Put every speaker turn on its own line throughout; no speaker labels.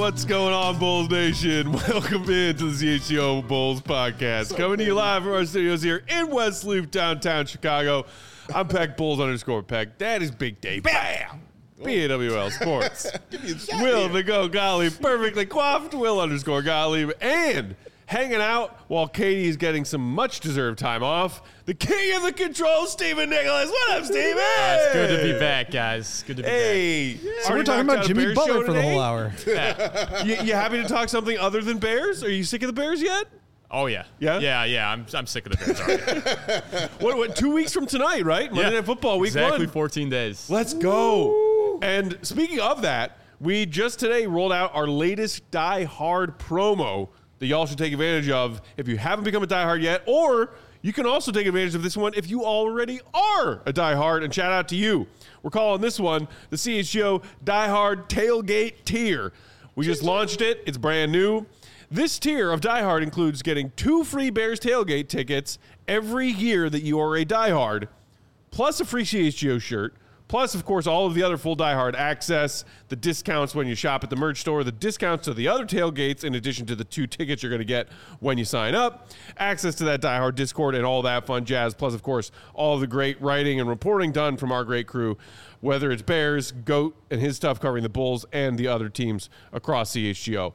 What's going on, Bulls Nation? Welcome in to the CHGO Bulls podcast. Coming to you live from our studios here in West Loop, downtown Chicago. I'm Peck Bulls _Peck. That is Big Dave. Bam! BAWL Sports. Will the Go Gottlieb, perfectly coiffed. Will _Gottlieb. And hanging out while Katie is getting some much-deserved time off, the king of the controls, Stephen Nicholas. What up, Steven?
It's good to be back, guys. Good to be back.
Yeah.
So we're talking about Jimmy Butler for the whole hour.
You happy to talk something other than Bears? Are you sick of the Bears yet?
Oh, yeah.
Yeah?
Yeah. I'm sick of the Bears already.
What, 2 weeks from tonight, right? Monday Night Football, week
exactly
1.
14 days.
Let's go. And speaking of that, we just today rolled out our latest Die Hard promo that y'all should take advantage of if you haven't become a Die Hard yet, or you can also take advantage of this one if you already are a Die Hard, and shout out to you. We're calling this one the CHGO Die Hard Tailgate Tier. We just launched it. It's brand new. This tier of Die Hard includes getting 2 free Bears tailgate tickets every year that you are a Die Hard, plus a free CHGO shirt, plus, of course, all of the other full Die Hard access, the discounts when you shop at the merch store, the discounts to the other tailgates, in addition to the 2 tickets you're going to get when you sign up, access to that Die Hard Discord and all that fun jazz, plus, of course, all of the great writing and reporting done from our great crew, whether it's Bears, Goat, and his stuff covering the Bulls and the other teams across CHGO.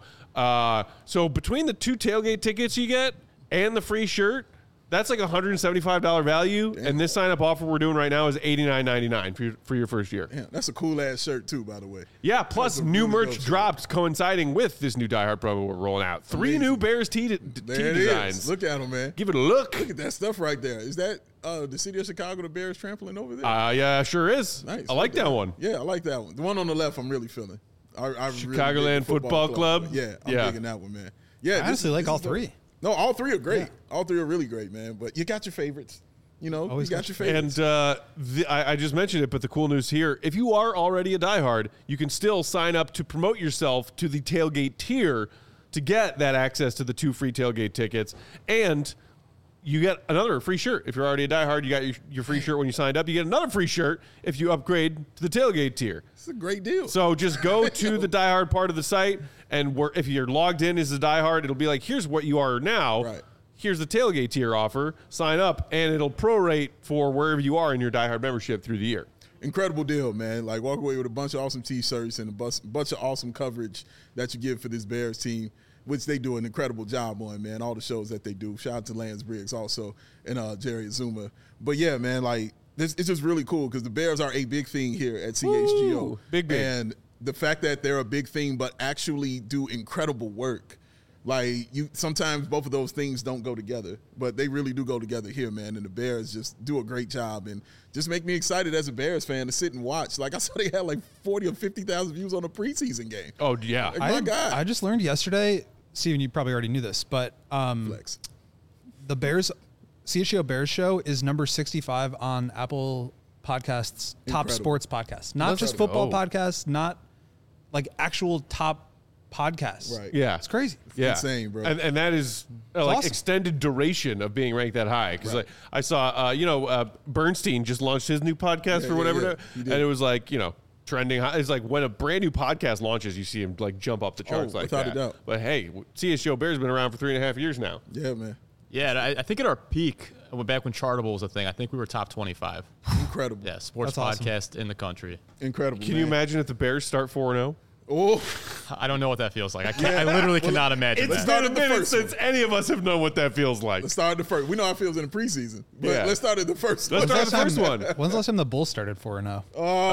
So between the 2 tailgate tickets you get and the free shirt, that's like $175 value, and this sign-up offer we're doing right now is $89.99 for your first year.
Yeah, that's a cool-ass shirt, too, by the way.
Yeah, plus new merch dropped coinciding with this new Die Hard promo we're rolling out. 3 new Bears tee designs.
Is. Look at them, man.
Give it a look.
Look at that stuff right there. Is that the city of Chicago, the Bears trampling over there?
Yeah, sure is.
Nice.
I like that one.
Yeah, I like that one. The one on the left I'm really feeling.
Chicagoland
really
Football Club.
Yeah, I'm digging that one, man. Yeah,
I honestly like all 3.
No, all 3 are great. Yeah. All 3 are really great, man. But you got your favorites. You know,
always
you got your favorites.
And I just mentioned it, but the cool news here, if you are already a diehard, you can still sign up to promote yourself to the tailgate tier to get that access to the 2 free tailgate tickets. And you get another free shirt. If you're already a diehard, you got your free shirt when you signed up. You get another free shirt if you upgrade to the tailgate tier.
It's a great deal.
So just go to the diehard part of the site, and if you're logged in as a diehard, it'll be like, here's what you are now.
Right.
Here's the tailgate tier offer. Sign up, and it'll prorate for wherever you are in your diehard membership through the year.
Incredible deal, man. Like, walk away with a bunch of awesome T-shirts and a bunch of awesome coverage that you give for this Bears team, which they do an incredible job on, man, all the shows that they do. Shout out to Lance Briggs also and Jerry Azuma. But, yeah, man, like, it's just really cool because the Bears are a big thing here at CHGO.
Woo! Big. And
the fact that they're a big thing but actually do incredible work, like, sometimes both of those things don't go together, but they really do go together here, man, and the Bears just do a great job and just make me excited as a Bears fan to sit and watch. Like, I saw they had like 40 or 50,000 views on a preseason game.
Oh, yeah.
Like, my God.
I just learned yesterday, Steven, you probably already knew this, but
Flex.
the Bears, CHGO Bears show is number 65 on Apple Podcasts, top sports podcasts. Not just football podcasts, not like actual top podcasts.
Right.
Yeah.
It's crazy.
Yeah.
Insane, bro.
And that is like
awesome.
extended duration of being ranked that high. Because
Right.
I saw, Bernstein just launched his new podcast or whatever.
He did.
And it was like, trending high. It's like when a brand new podcast launches, you see him like jump up the charts like
without
that.
a doubt.
But hey, CHGO Bears has been around for 3.5 years now.
Yeah, man.
Yeah, and I think at our peak, back when Chartable was a thing, I think we were top 25.
Incredible.
Yeah, sports
That's awesome.
podcast in the country.
Incredible,
Can you imagine if the Bears start 4-0?
Oh,
I don't know what that feels like. I literally cannot imagine
It's
that.
been a minute since any of us have known what that feels like.
let's start at the first. We know how it feels in the preseason, but
Yeah.
let's start at the first.
Let's
one.
start with the first one.
When's the last time the Bulls started 4-0?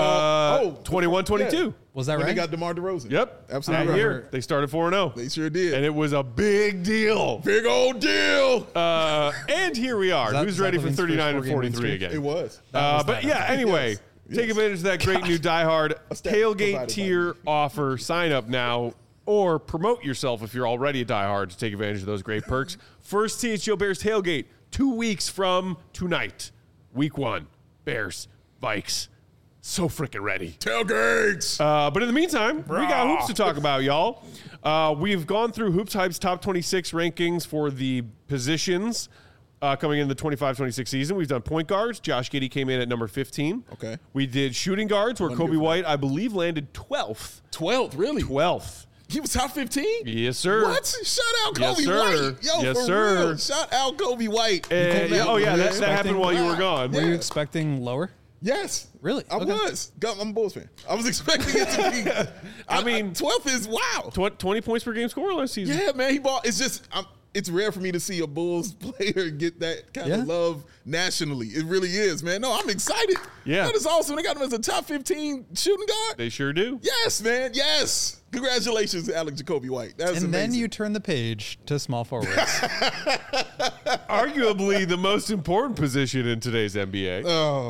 21-22.
Yeah.
Was that
When
right?
they got DeMar DeRozan.
Yep.
Absolutely
That
right.
year, they started 4-0.
They sure did.
And it was a big deal.
Big old deal.
And here we are.
that
Who's ready for
Levine's first
39 and
4-game win
43
streak?
again?
It was.
But yeah, anyway,
Yes.
take advantage of that great new Die Hard
stat
tailgate
provided by
tier
me.
offer. Sign up now or promote yourself if you're already a Die Hard to take advantage of those great perks. First CHGO Bears tailgate 2 weeks from tonight. Week 1. Bears, Vikes. So freaking ready.
Tailgates.
But in the meantime, we got hoops to talk about, y'all. We've gone through Hoops Hype's top 26 rankings for the positions coming in the 25-26 season. We've done point guards. Josh Giddey came in at number 15.
Okay.
We did shooting guards, where Kobe
Wonderful.
White, I believe, landed 12th.
12th, really?
12th.
He was top 15?
Yes, sir.
What? Shout out Kobe
Yes, sir.
White. Yo,
Yes,
for
sir.
real. Shout out Kobe White.
And, that happened while you were gone.
Were you expecting lower?
Yes.
Really?
I
Okay.
was. I'm a Bulls fan. I was expecting it to be.
I mean,
12th is wow.
20 points per game score last season.
Yeah, man. He bought. It's just, it's rare for me to see a Bulls player get that kind of love nationally. It really is, man. No, I'm excited.
Yeah.
That is awesome. They got him as a top 15 shooting guard.
They sure do.
Yes, man. Yes. Congratulations to Alec Jacoby White. That's
And
amazing.
then you turn the page to small forwards.
Arguably the most important position in today's NBA.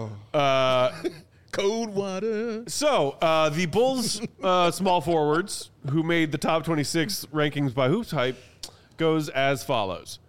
Cold water.
So, the Bulls small forwards, who made the top 26 rankings by Hoops Hype, goes as follows.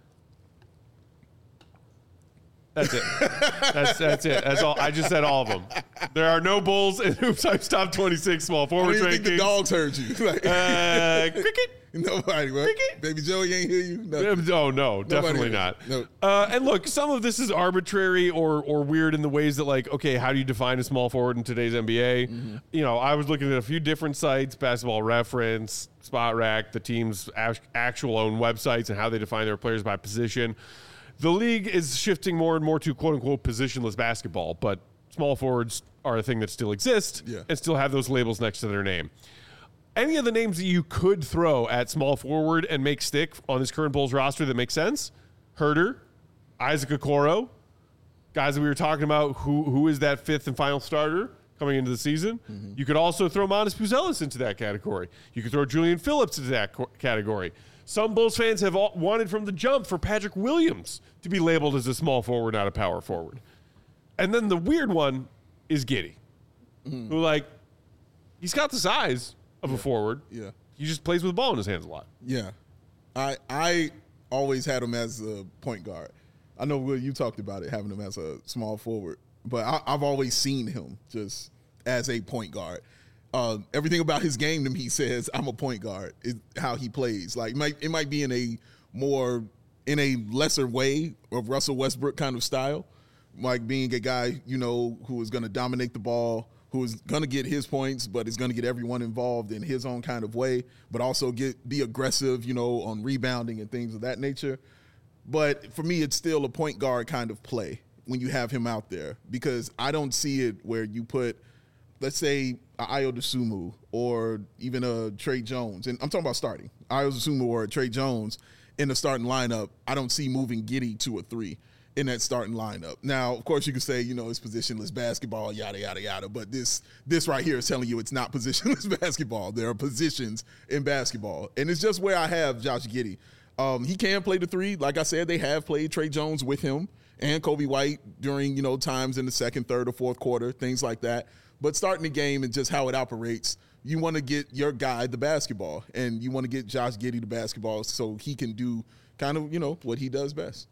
That's it. That's it. That's all. I just said all of them. There are no Bulls in Hoops Hype's top 26 small
I
forwards
didn't
rankings.
think the dogs heard you. Like,
Cricket.
nobody, what?
Cricket.
Baby Joey ain't hear you? Nothing.
No, definitely not.
No.
And look, some of this is arbitrary or weird in the ways that, like, okay, how do you define a small forward in today's NBA?
Mm-hmm.
You know, I was looking at a few different sites, Basketball Reference, Spot Rack, the team's actual own websites, and how they define their players by position. The league is shifting more and more to quote-unquote positionless basketball, but small forwards are a thing that still exists and still have those labels next to their name. Any of the names that you could throw at small forward and make stick on this current Bulls roster that makes sense? Herder, Isaac Okoro, guys that we were talking about, who is that fifth and final starter coming into the season. Mm-hmm. You could also throw Manas Puzelis into that category. You could throw Julian Phillips into that category. Some Bulls fans have wanted from the jump for Patrick Williams to be labeled as a small forward, not a power forward. And then the weird one is Giddey, who, like, he's got the size of a forward.
Yeah.
He just plays with the ball in his hands a lot.
Yeah. I always had him as a point guard. I know, Will, you talked about it, having him as a small forward, but I've always seen him just as a point guard. Everything about his game to me says I'm a point guard. Is how he plays. Like it might be in a lesser way of Russell Westbrook kind of style, like being a guy who is going to dominate the ball, who is going to get his points, but is going to get everyone involved in his own kind of way, but also be aggressive, on rebounding and things of that nature. But for me, it's still a point guard kind of play when you have him out there, because I don't see it where you put, let's say, Ayo Dosunmu or even a Trey Jones, and I'm talking about starting, Ayo Dosunmu or a Trey Jones in the starting lineup. I don't see moving Giddey to a 3 in that starting lineup. Now, of course, you could say, it's positionless basketball, yada, yada, yada, but this right here is telling you it's not positionless basketball. There are positions in basketball, and it's just where I have Josh Giddey. He can play the 3. Like I said, they have played Trey Jones with him and Kobe White during, times in the second, third, or fourth quarter, things like that. But starting the game and just how it operates, you want to get your guy the basketball, and you want to get Josh Giddey the basketball so he can do kind of, what he does best.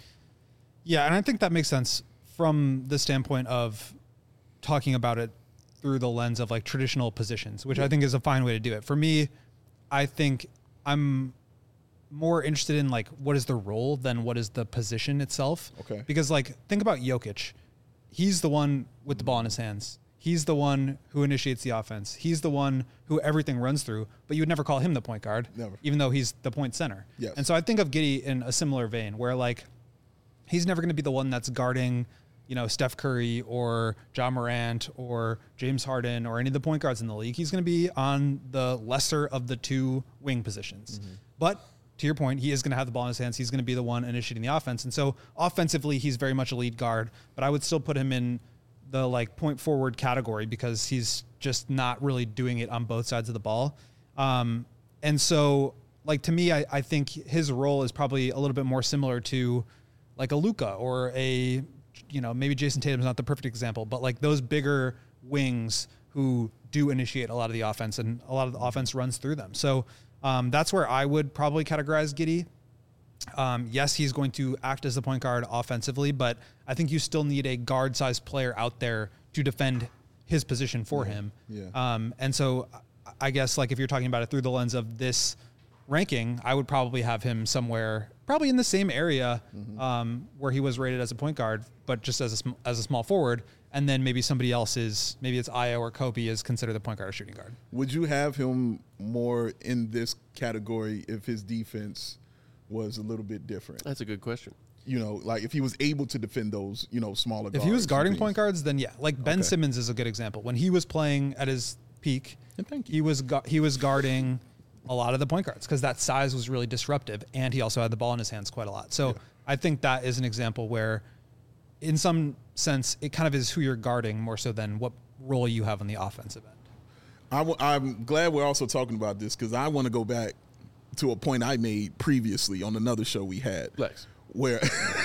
Yeah, and I think that makes sense from the standpoint of talking about it through the lens of like traditional positions, which I think is a fine way to do it. For me, I think I'm more interested in like what is the role than what is the position itself.
Okay.
Because like think about Jokic. He's the one with the ball in his hands. He's the one who initiates the offense. He's the one who everything runs through, but you would never call him the point guard,
Never.
even though he's the point center.
Yes.
And so I think of Giddey in a similar vein where like he's never going to be the one that's guarding, Steph Curry or John Morant or James Harden or any of the point guards in the league. He's going to be on the lesser of the 2 wing positions. Mm-hmm. But to your point, he is going to have the ball in his hands. He's going to be the one initiating the offense. And so offensively, he's very much a lead guard, but I would still put him in the like point forward category because he's just not really doing it on both sides of the ball. And so like, to me, I think his role is probably a little bit more similar to like a Luka or a, maybe Jason Tatum's not the perfect example, but like those bigger wings who do initiate a lot of the offense and a lot of the offense runs through them. So that's where I would probably categorize Giddey. Yes, he's going to act as the point guard offensively, but I think you still need a guard-sized player out there to defend his position for him.
Yeah.
And so I guess like if you're talking about it through the lens of this ranking, I would probably have him somewhere probably in the same area where he was rated as a point guard, but just as a small forward. and then maybe somebody else is, maybe it's Ayo or Kobe is considered the point guard or shooting guard.
Would you have him more in this category if his defense was a little bit different?
That's a good question.
You know, like if he was able to defend those, you know, smaller guards.
If he was guarding
and
point
things.
guards, then yeah. Like Ben
Okay.
Simmons is a good example. When he was playing at his peak,
And thank you.
he was guarding a lot of the point guards because that size was really disruptive, and he also had the ball in his hands quite a lot. So I think that is an example where, in some sense, it kind of is who you're guarding more so than what role you have on the offensive end.
I'm glad we're also talking about this because I want to go back to a point I made previously on another show we had.
Lex.
Where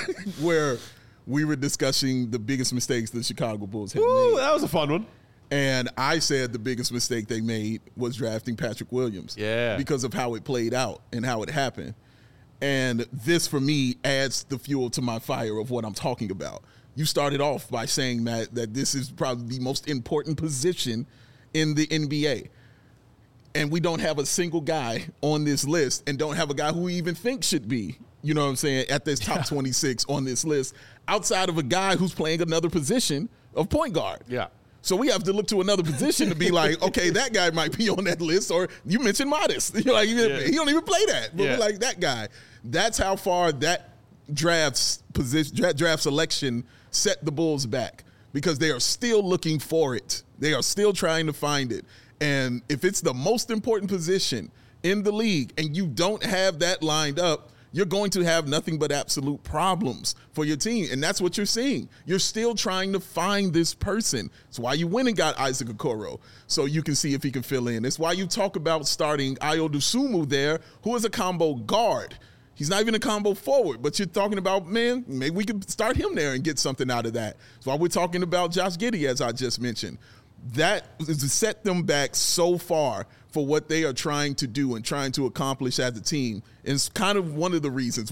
we were discussing the biggest mistakes the Chicago Bulls had
Ooh,
made.
that was a fun one.
And I said the biggest mistake they made was drafting Patrick Williams.
Yeah.
Because of how it played out and how it happened. And this, for me, adds the fuel to my fire of what I'm talking about. You started off by saying, Matt, that this is probably the most important position in the NBA. And we don't have a single guy on this list and don't have a guy who we even think should be, you know what I'm saying, at this top 26 on this list, outside of a guy who's playing another position of point guard.
Yeah.
So we have to look to another position to be like, okay, that guy might be on that list. Or you mentioned Modest. You're like, he don't even play that. But we're like, that guy. That's how far that draft selection set the Bulls back because they are still looking for it. They are still trying to find it. And if it's the most important position in the league and you don't have that lined up, you're going to have nothing but absolute problems for your team. And that's what you're seeing. You're still trying to find this person. It's why you went and got Isaac Okoro, so you can see if he can fill in. It's why you talk about starting Ayo Dosunmu there, who is a combo guard. He's not even a combo forward, but you're talking about, man, maybe we could start him there and get something out of that. That's why we're talking about Josh Giddey, as I just mentioned. That is to set them back so far for what they are trying to do and trying to accomplish as a team. And it's kind of one of the reasons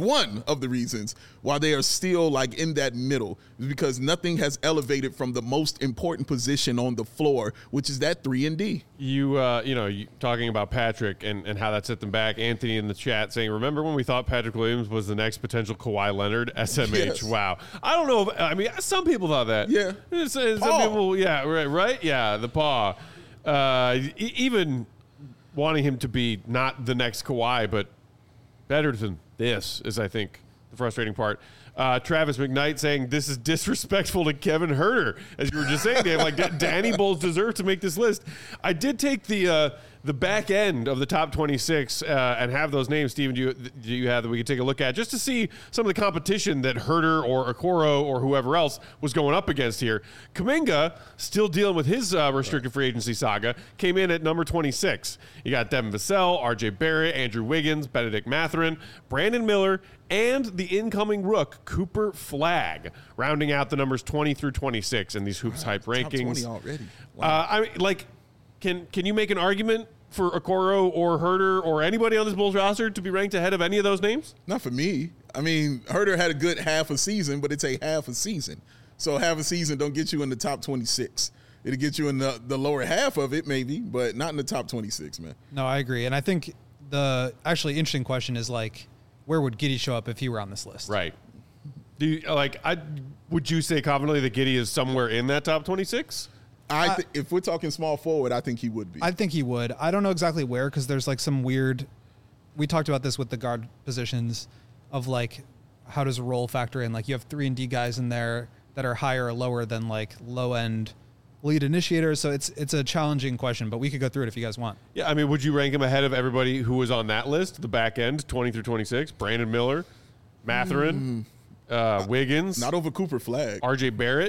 why they are still like in that middle is because nothing has elevated from the most important position on the floor, which is that 3-and-D.
You talking about Patrick and how that set them back. Anthony in the chat saying, remember when we thought Patrick Williams was the next potential Kawhi Leonard? SMH.
Yes.
Wow. I don't know. Some people thought that.
Yeah.
Some
Paw.
people, yeah, right? Yeah, the paw. Even wanting him to be not the next Kawhi, but better than this is, I think, the frustrating part. Travis McKnight saying this is disrespectful to Kevin Huerter, as you were just saying, Dave. Like Danny Bulls deserve to make this list. I did take the back end of the top 26 and have those names. Steven, do you have that we could take a look at just to see some of the competition that Huerter or Okoro or whoever else was going up against here. Kuminga, still dealing with his restricted free agency saga, came in at number 26. You got Devin Vassell, RJ Barrett, Andrew Wiggins, Benedict Mathurin, Brandon Miller, and the incoming rook, Cooper Flagg, rounding out the numbers 20 through 26 in these Hoops Hype rankings.
Top 20 already. Wow.
Can you make an argument for Okoro or Huerter or anybody on this Bulls roster to be ranked ahead of any of those names?
Not for me. I mean, Huerter had a good half a season, but it's a half a season. So half a season don't get you in the top 26. It'll get you in the lower half of it maybe, but not in the top 26, man.
No, I agree. And I think the actually interesting question is like, where would Giddey show up if he were on this list?
Right. Do you, would you say confidently that Giddey is somewhere in that top 26?
If we're talking small forward, I think he would be.
I think he would. I don't know exactly where because there's like some weird. We talked about this with the guard positions of like how does role factor in? Like you have 3-and-D guys in there that are higher or lower than like low end lead initiators. So it's a challenging question, but we could go through it if you guys want.
Yeah, I mean, would you rank him ahead of everybody who was on that list, the back end, 20 through 26? Brandon Miller, Mathurin, Wiggins,
Not over Cooper Flagg.
RJ Barrett,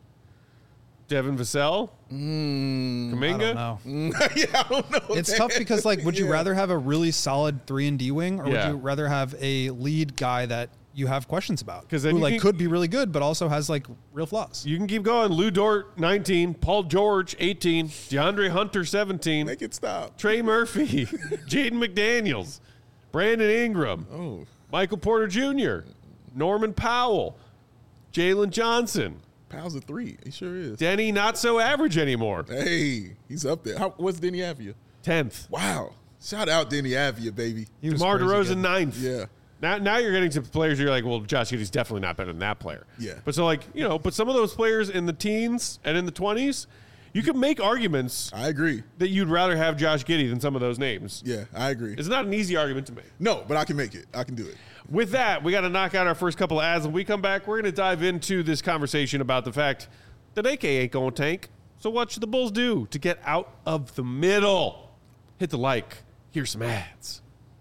Devin Vassell, Kuminga.
I don't know.
Yeah, I don't know.
It's tough because like, would you rather have a really solid 3-and-D wing, or
Yeah.
would you rather have a lead guy that you have questions about?
'Cause then
who
you
like
can-
could be really good, but also has like real flaws.
You can keep going. Lou Dort, 19. Paul George, 18. DeAndre Hunter, 17.
Make it stop.
Trey Murphy, Jaden McDaniels, Brandon Ingram,
Oh,
Michael Porter Jr., Norman Powell, Jalen Johnson,
Powell's a 3. He sure is.
Denny not so average anymore,
Hey, he's up there. What's Denny Avia?
10th.
Wow. Shout out Denny Avia, baby.
He was
DeMar
crazy
DeRozan,
good.
9th.
Yeah.
Now you're getting to players you're like, well, Josh Giddey's definitely not better than that player.
Yeah.
But so but some of those players in the teens and in the 20s, you can make arguments
I agree.
that you'd rather have Josh Giddey than some of those names.
Yeah, I agree.
It's not an easy argument to make.
No, but I can make it. I can do it.
With that, we got to knock out our first couple of ads. When we come back, we're going to dive into this conversation about the fact that AK ain't going to tank. So what should the Bulls do to get out of the middle? Hit the like. Here's some ads.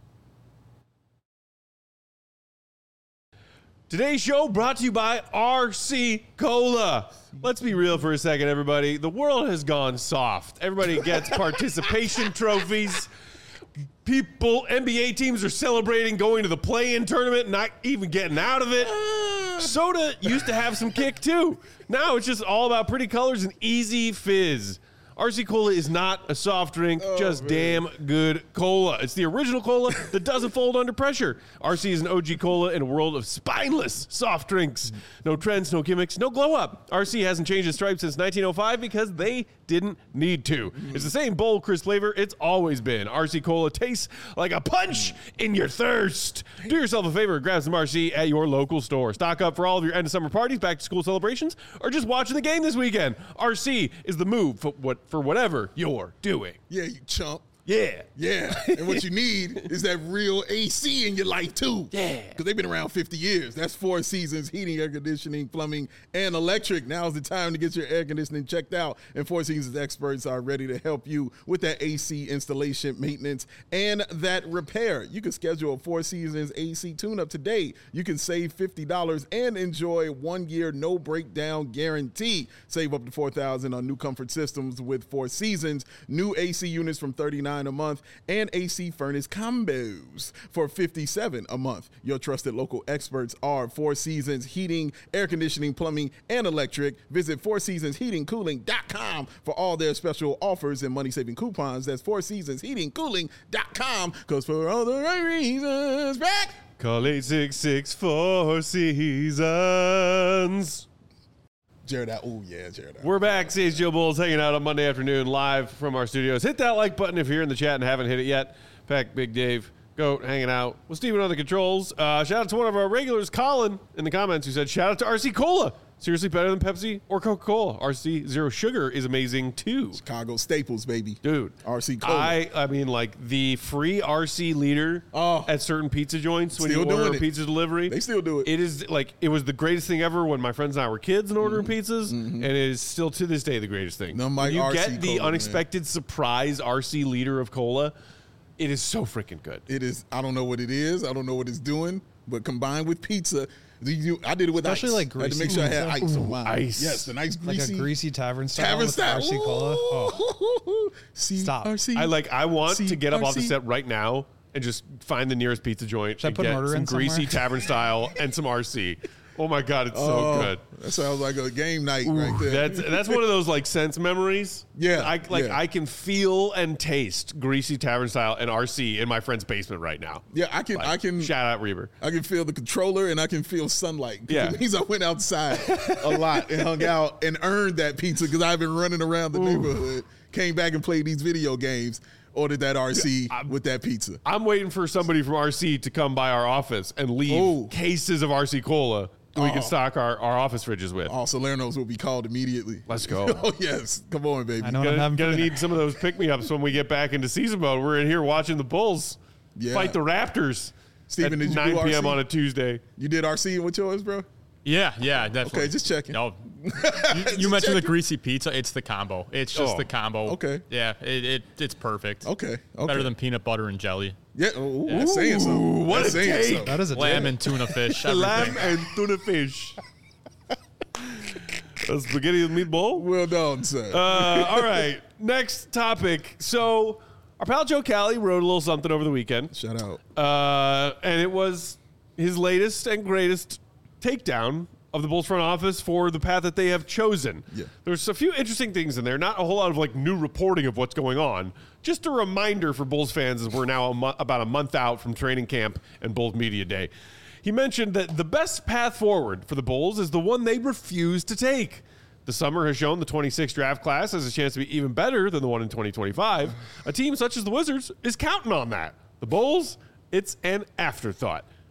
Today's show brought to you by RC Cola. Let's be real for a second, everybody. The world has gone soft. Everybody gets participation trophies. NBA teams are celebrating going to the play-in tournament, not even getting out of it. Soda used to have some kick, too. Now it's just all about pretty colors and easy fizz. RC Cola is not a soft drink, just damn good cola. It's the original cola that doesn't fold under pressure. RC is an OG cola in a world of spineless soft drinks. No trends, no gimmicks, no glow up. RC hasn't changed its stripe since 1905 because they didn't need to. It's the same bold, crisp flavor it's always been. RC Cola tastes like a punch in your thirst. Do yourself a favor and grab some RC at your local store. Stock up for all of your end of summer parties, back to school celebrations, or just watching the game this weekend. RC is the move for whatever you're doing.
Yeah, you chump.
Yeah.
Yeah. And what you need is that real AC in your life, too.
Yeah.
Because they've been around 50 years. That's 4 Seasons, heating, air conditioning, plumbing, and electric. Now's the time to get your air conditioning checked out. And 4 Seasons experts are ready to help you with that AC installation, maintenance, and that repair. You can schedule a 4 Seasons AC tune-up today. You can save $50 and enjoy 1 year no breakdown guarantee. Save up to $4,000 on new comfort systems with 4 Seasons. New AC units from $39 a month and AC furnace combos for $57 a month. Your trusted local experts are 4 Seasons Heating, Air Conditioning, Plumbing, and Electric. Visit 4seasonsheatingcooling.com for all their special offers and money-saving coupons. That's 4seasonsheatingcooling.com, because for all the right reasons, back.
Call 866-4 Seasons.
Jared out. Oh, yeah, Jared out.
We're back. CHGO Bulls hanging out on Monday afternoon live from our studios. Hit that like button if you're in the chat and haven't hit it yet. In fact, Big Dave, Goat, hanging out with Steven on the controls. Shout out to one of our regulars, Colin, in the comments, who said, shout out to RC Cola. Seriously better than Pepsi or Coca-Cola. RC Zero Sugar is amazing, too.
Chicago staples, baby.
Dude.
RC Cola.
I mean, like, the free RC liter at certain pizza joints when you order a pizza delivery.
They still do it.
It is, like, it was the greatest thing ever when my friends and I were kids and ordering pizzas, and it is still to this day the greatest thing.
When
you
RC
get the
Cola,
unexpected surprise RC liter of cola, it is so freaking good.
It is. I don't know what it is. I don't know what it's doing, but combined with pizza, I did it with
especially
ice.
like greasy.
I had to make sure I had ice on mine.
Ice.
Yes, the nice greasy.
Like a greasy tavern style.
Tavern
with
style.
RC Cola. Oh.
Stop.
I want to get up off the set right now and just find the nearest pizza joint and
put
get
murder
some
in
greasy
somewhere?
tavern style and some RC. Oh my God, it's so good.
That sounds like a game night right there.
That's one of those like sense memories.
Yeah,
I can feel and taste greasy tavern style and RC in my friend's basement right now.
Yeah, I can
shout out Reber.
I can feel the controller and I can feel sunlight.
Yeah.
It means I went outside a lot and hung out and earned that pizza because I've been running around the neighborhood, came back and played these video games, ordered that RC with that pizza.
I'm waiting for somebody from RC to come by our office and leave cases of RC Cola that we can stock our office fridges with.
Oh, Salerno's will be called immediately.
Let's go.
Oh, yes. Come on, baby.
I know what I'm having.
Gonna need some of those pick-me-ups when we get back into season mode. We're in here watching the Bulls fight the Raptors
Steven,
at
did you
9
do
p.m.
RC?
on a Tuesday.
You did RC with yours, bro?
Yeah, definitely.
Okay, just checking.
No, you mentioned the greasy pizza. It's the combo. It's just the combo.
Okay.
Yeah, it's perfect.
Okay.
Better than peanut butter and jelly.
Yeah. Ooh, that's saying something.
What
That's
a
saying
take.
something.
That is a
Lamb
take.
and tuna fish.
Lamb
Everything.
and tuna fish. A spaghetti and meatball?
Well done, sir.
All right. Next topic. So, our pal Joe Cali wrote a little something over the weekend.
Shout out.
And it was his latest and greatest takedown of the Bulls front office for the path that they have chosen.
Yeah.
There's a few interesting things in there. Not a whole lot of like new reporting of what's going on. Just a reminder for Bulls fans as we're now about a month out from training camp and Bulls Media Day. He mentioned that the best path forward for the Bulls is the one they refuse to take. The summer has shown the 26 draft class has a chance to be even better than the one in 2025. A team such as the Wizards is counting on that. The Bulls, it's an afterthought.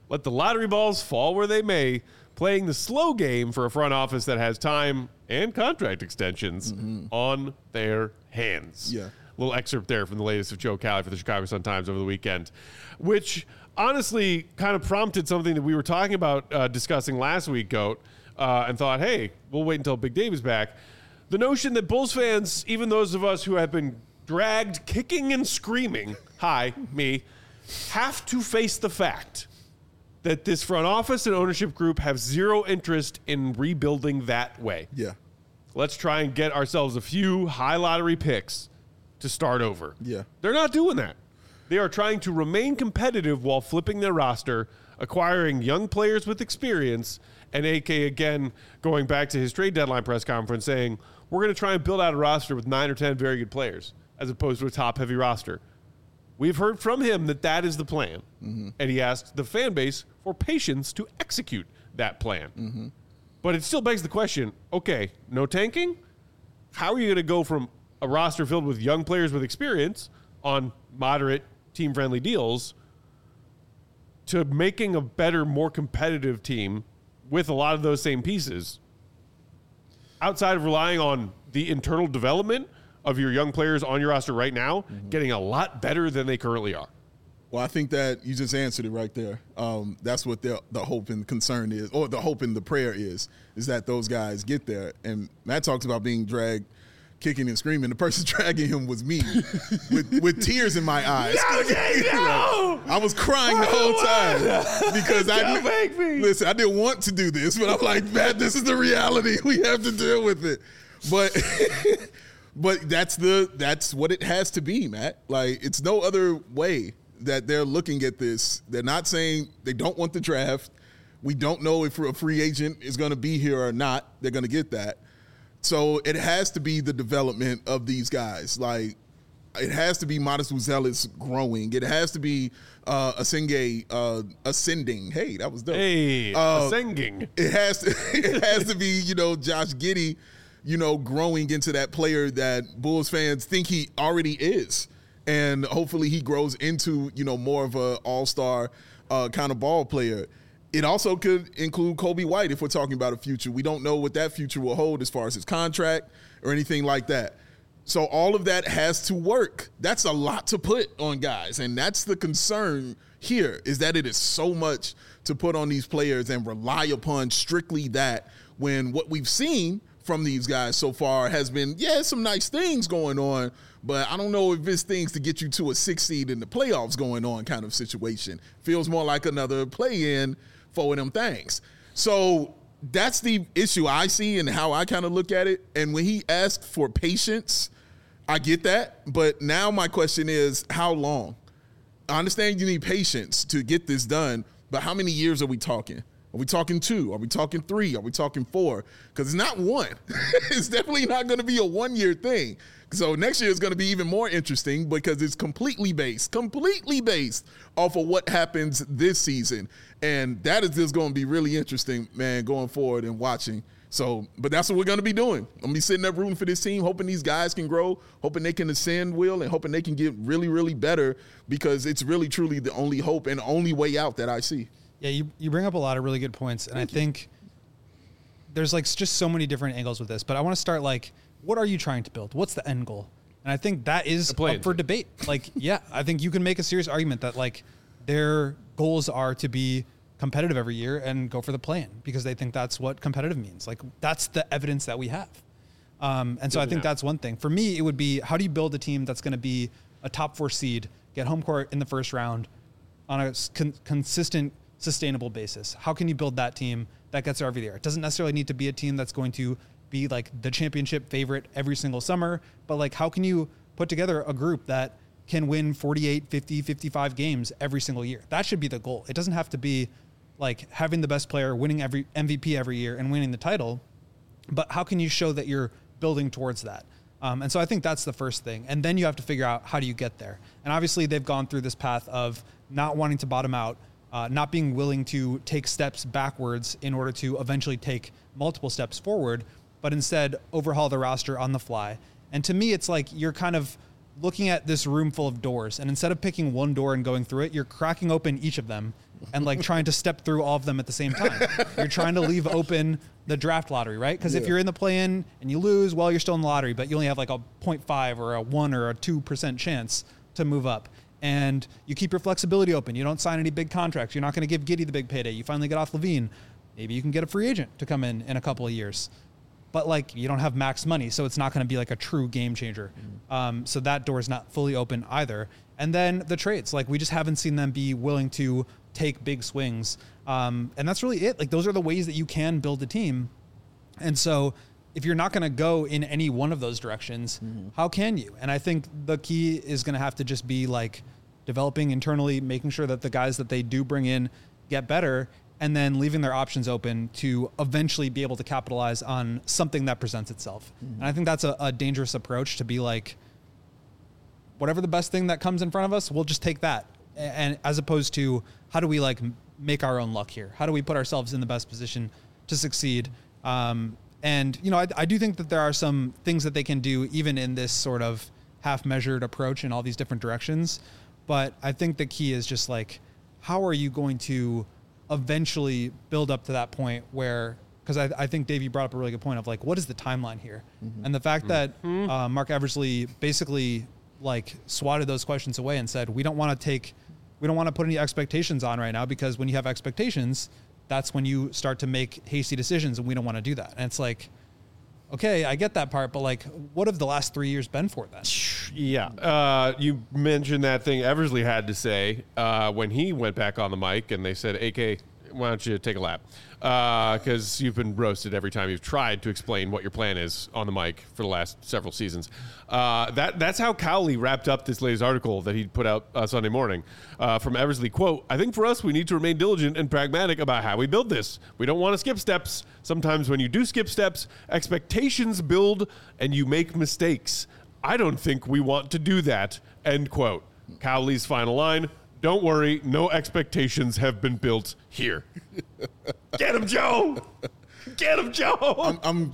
let the lottery balls fall where they may, playing the slow game for a front office that has time and contract extensions on their hands.
Yeah.
Little excerpt there from the latest of Joe Cowley for the Chicago Sun-Times over the weekend, which honestly kind of prompted something that we were talking about discussing last week, Goat, and thought, hey, we'll wait until Big Dave is back. The notion that Bulls fans, even those of us who have been dragged kicking and screaming, me, have to face the fact that this front office and ownership group have zero interest in rebuilding that way.
Yeah.
Let's try and get ourselves a few high lottery picks to start over.
Yeah.
They're not doing that. They are trying to remain competitive while flipping their roster, acquiring young players with experience, and AK again going back to his trade deadline press conference saying, we're going to try and build out a roster with 9 or 10 very good players as opposed to a top-heavy roster. We've heard from him that that is the plan, and he asked the fan base for patience to execute that plan. But it still begs the question, okay, no tanking? How are you going to go from a roster filled with young players with experience on moderate team-friendly deals to making a better, more competitive team with a lot of those same pieces outside of relying on the internal development of your young players on your roster right now, getting a lot better than they currently are?
Well, I think that you just answered it right there. That's what the hope and concern is, or the hope and the prayer is that those guys get there. And Matt talks about being dragged, kicking and screaming. The person dragging him was me with tears in my eyes.
No!
I was crying the whole time because I didn't want to do this, but I'm like, Matt, this is the reality. We have to deal with it. But that's what it has to be, Matt. Like, it's no other way that they're looking at this. They're not saying they don't want the draft. We don't know if a free agent is going to be here or not. They're going to get that. So it has to be the development of these guys. Like, it has to be Modest Uzelis growing. It has to be Asenge ascending. Hey, that was dope.
Hey, ascending.
It has to be, Josh Giddey, growing into that player that Bulls fans think he already is. And hopefully he grows into, more of an all-star kind of ball player. It also could include Kobe White if we're talking about a future. We don't know what that future will hold as far as his contract or anything like that. So all of that has to work. That's a lot to put on guys. And that's the concern here, is that it is so much to put on these players and rely upon strictly that, when what we've seen from these guys so far has been, some nice things going on, but I don't know if it's things to get you to a 6 seed in the playoffs going on kind of situation. Feels more like another play-in for them things. So that's the issue I see and how I kind of look at it. And when he asked for patience, I get that. But now my question is, how long? I understand you need patience to get this done, but how many years are we talking? Are we talking 2? Are we talking 3? Are we talking 4? Because it's not 1. It's definitely not going to be a 1-year thing. So next year is going to be even more interesting because it's completely based off of what happens this season. And that is just going to be really interesting, man, going forward and watching. So, but that's what we're going to be doing. I'm going to be sitting there rooting for this team, hoping these guys can grow, hoping they can ascend, Will, and hoping they can get really, really better, because it's really, truly the only hope and only way out that I see.
Yeah, you bring up a lot of really good points, and I think there's just so many different angles with this. But I want to start what are you trying to build? What's the end goal? And I think that is up for debate. I think you can make a serious argument that their goals are to be competitive every year and go for the play-in, because they think that's what competitive means. That's the evidence that we have. And so I think that's one thing. For me, it would be, how do you build a team that's going to be a top 4 seed, get home court in the first round on a consistent, sustainable basis? How can you build that team that gets there every year? It doesn't necessarily need to be a team that's going to be the championship favorite every single summer, but how can you put together a group that can win 48, 50, 55 games every single year? That should be the goal. It doesn't have to be having the best player, winning every MVP every year and winning the title, but how can you show that you're building towards that? And so I think that's the first thing. And then you have to figure out, how do you get there? And obviously they've gone through this path of not wanting to bottom out, not being willing to take steps backwards in order to eventually take multiple steps forward, but instead overhaul the roster on the fly. And to me, it's you're kind of looking at this room full of doors, and instead of picking one door and going through it, you're cracking open each of them and like trying to step through all of them at the same time. You're trying to leave open the draft lottery, right? Because if you're in the play-in and you lose, well, you're still in the lottery, but you only have like a 0.5 or a 1 or a 2% chance to move up. And you keep your flexibility open. You don't sign any big contracts. You're not going to give Giddey the big payday. You finally get off Levine. Maybe you can get a free agent to come in a couple of years. But like you don't have max money, so it's not going to be like a true game changer. So that door is not fully open either. And then the trades, like we just haven't seen them be willing to take big swings. And that's really it. Like those are the ways that you can build a team. And so if you're not going to go in any one of those directions, how can you? And I think the key is going to have to just be like developing internally, making sure that the guys that they do bring in get better, and then leaving their options open to eventually be able to capitalize on something that presents itself. And I think that's a dangerous approach to be like, whatever the best thing that comes in front of us, we'll just take that. And as opposed to how do we like make our own luck here? How do we put ourselves in the best position to succeed? And, you know, I do think that there are some things that they can do even in this sort of half-measured approach in all these different directions. But I think the key is just like, how are you going to eventually build up to that point where, because I think Dave, you brought up a really good point of like, what is the timeline here? And the fact that Mark Eversley basically like swatted those questions away and said, we don't want to put any expectations on right now, because when you have expectations, that's when you start to make hasty decisions, and we don't want to do that. And it's like, okay, I get that part, but like, what have the last 3 years been for then?
Yeah. You mentioned that thing Eversley had to say when he went back on the mic, and they said, AK, why don't you take a lap? Because you've been roasted every time you've tried to explain what your plan is on the mic for the last several seasons. That's how Cowley wrapped up this latest article that he put out Sunday morning. From Eversley, quote, I think for us, we need to remain diligent and pragmatic about how we build this. We don't want to skip steps. Sometimes when you do skip steps, expectations build and you make mistakes. I don't think we want to do that, end quote. Cowley's final line, don't worry, no expectations have been built here. Get him, Joe! Get him, Joe!
I'm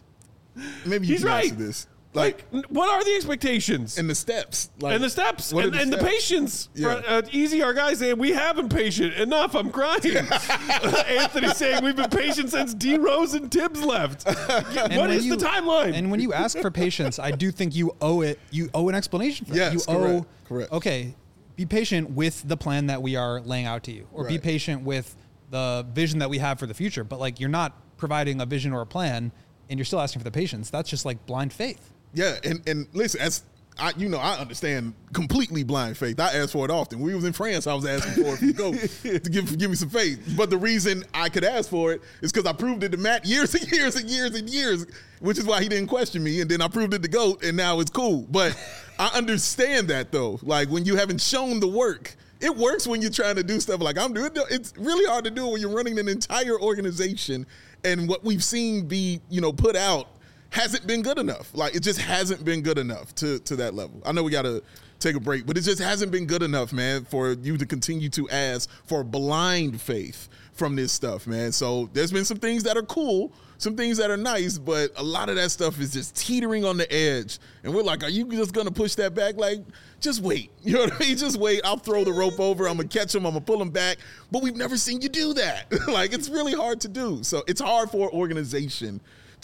maybe you
He's
can
right.
answer this.
Like, what are the expectations?
And the steps. Like,
And the steps.
what are
And the
steps?
patience.
Yeah.
Easy, our guys saying, we have been patient. Enough, I'm crying. Anthony saying, we've been patient since D. Rose and Tibbs left. What is the timeline?
And when you ask for patience, I do think you owe an explanation for that.
Yes,
You
correct.
Okay, be patient with the plan that we are laying out to you, or be
Right.
patient with the vision that we have for the future. But like, you're not providing a vision or a plan, and you're still asking for the patience. That's just like blind faith.
Yeah, and listen, I understand completely blind faith. I ask for it often. When we was in France, I was asking for it to go to give me some faith. But the reason I could ask for it is because I proved it to Matt years and years and years and years, which is why he didn't question me. And then I proved it to GOAT, and now it's cool. But I understand that though. Like when you haven't shown the work, it works when you're trying to do stuff like I'm doing. It's really hard to do when you're running an entire organization, and what we've seen be put out hasn't been good enough. Like, it just hasn't been good enough to that level. I know we got to take a break, but it just hasn't been good enough, man, for you to continue to ask for blind faith from this stuff, man. So there's been some things that are cool, some things that are nice, but a lot of that stuff is just teetering on the edge. And we're like, are you just going to push that back? Like, just wait. You know what I mean? Just wait. I'll throw the rope over. I'm going to catch him. I'm going to pull him back. But we've never seen you do that. Like, it's really hard to do. So it's hard for an organization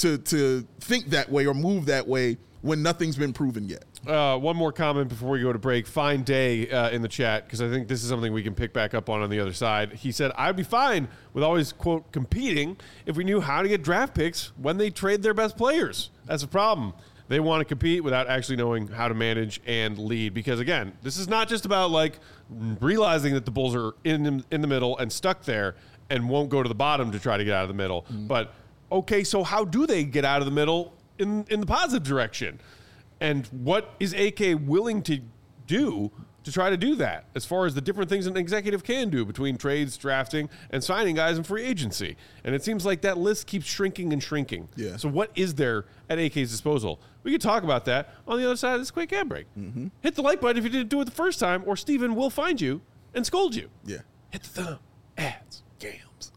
to think that way or move that way when nothing's been proven yet.
One more comment before we go to break. Fine Day in the chat, because I think this is something we can pick back up on the other side. He said, I'd be fine with always, quote, competing if we knew how to get draft picks when they trade their best players. That's a problem. They want to compete without actually knowing how to manage and lead. Because, again, this is not just about, like, realizing that the Bulls are in the middle and stuck there and won't go to the bottom to try to get out of the middle. But, okay, so how do they get out of the middle in the positive direction? And what is AK willing to do to try to do that, as far as the different things an executive can do between trades, drafting, and signing guys in free agency? And it seems like that list keeps shrinking and shrinking.
Yeah.
So what is there at AK's disposal? We could talk about that on the other side of this quick ad break. Hit the like button if you didn't do it the first time, or Steven will find you and scold you.
Yeah.
Hit the thumb. Ads. Gams.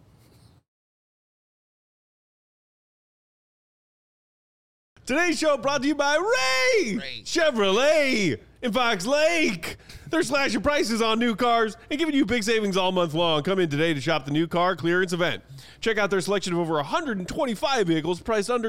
Today's show brought to you by Ray Chevrolet. in Fox Lake. They're slashing prices on new cars and giving you big savings all month long. Come in today to shop the new car clearance event. Check out their selection of over 125 vehicles priced under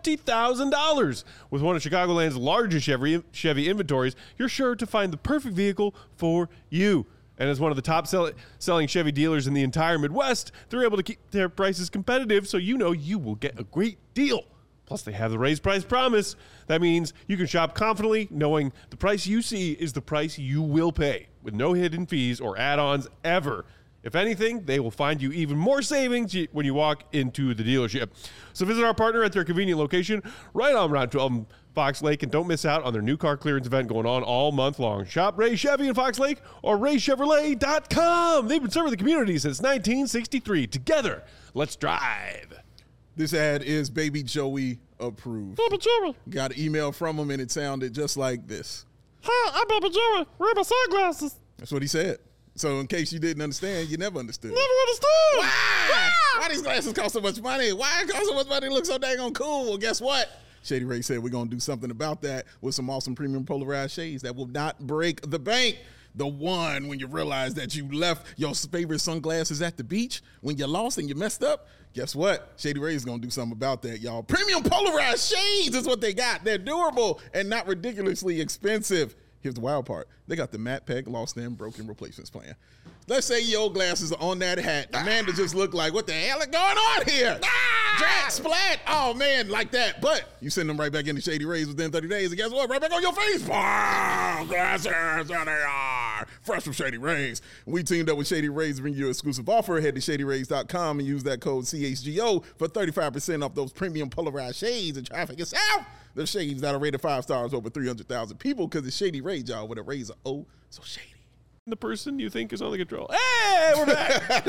$20,000. With one of Chicagoland's largest Chevy inventories, you're sure to find the perfect vehicle for you. And as one of the top selling Chevy dealers in the entire Midwest, they're able to keep their prices competitive, so you know you will get a great deal. Plus, they have the raised price promise. That means you can shop confidently, knowing the price you see is the price you will pay, with no hidden fees or add-ons ever. If anything, they will find you even more savings when you walk into the dealership. So visit our partner at their convenient location right on Route 12 in Fox Lake, and don't miss out on their new car clearance event going on all month long. Shop Ray Chevy in Fox Lake or RayChevrolet.com. They've been serving the community since 1963. Together, let's drive.
This ad is Baby Joey approved.
Baby Joey.
Got an email from him, and it sounded just like this.
Hi, I'm Baby Joey. Where are my sunglasses?
That's what he said. So in case you didn't understand, you never understood.
Never understood.
Why? Why these glasses cost so much money? Why it cost so much money to look so dang on cool? Well, guess what? Shady Ray said we're going to do something about that with some awesome premium polarized shades that will not break the bank. The one when you realize that you left your favorite sunglasses at the beach, when you lost and you messed up, guess what? Shady Ray is going to do something about that, y'all. Premium polarized shades is what they got. They're durable and not ridiculously expensive. Here's the wild part. They got the matte peg, lost and broken replacements plan. Let's say your glasses are on that hat. The man that just looked like, what the hell is going on here? Drat, splat. Oh, man, like that. But you send them right back into Shady Rays within 30 days, and guess what? Right back on your face. Wow, glasses, there they are. Fresh from Shady Rays. We teamed up with Shady Rays to bring you an exclusive offer. Head to ShadyRays.com and use that code CHGO for 35% off those premium polarized shades and traffic itself. The shades that are rated 5 stars over 300,000 people because it's Shady Rays, y'all, with a razor. Oh, so shady.
The person you think is on the control. Hey, we're back.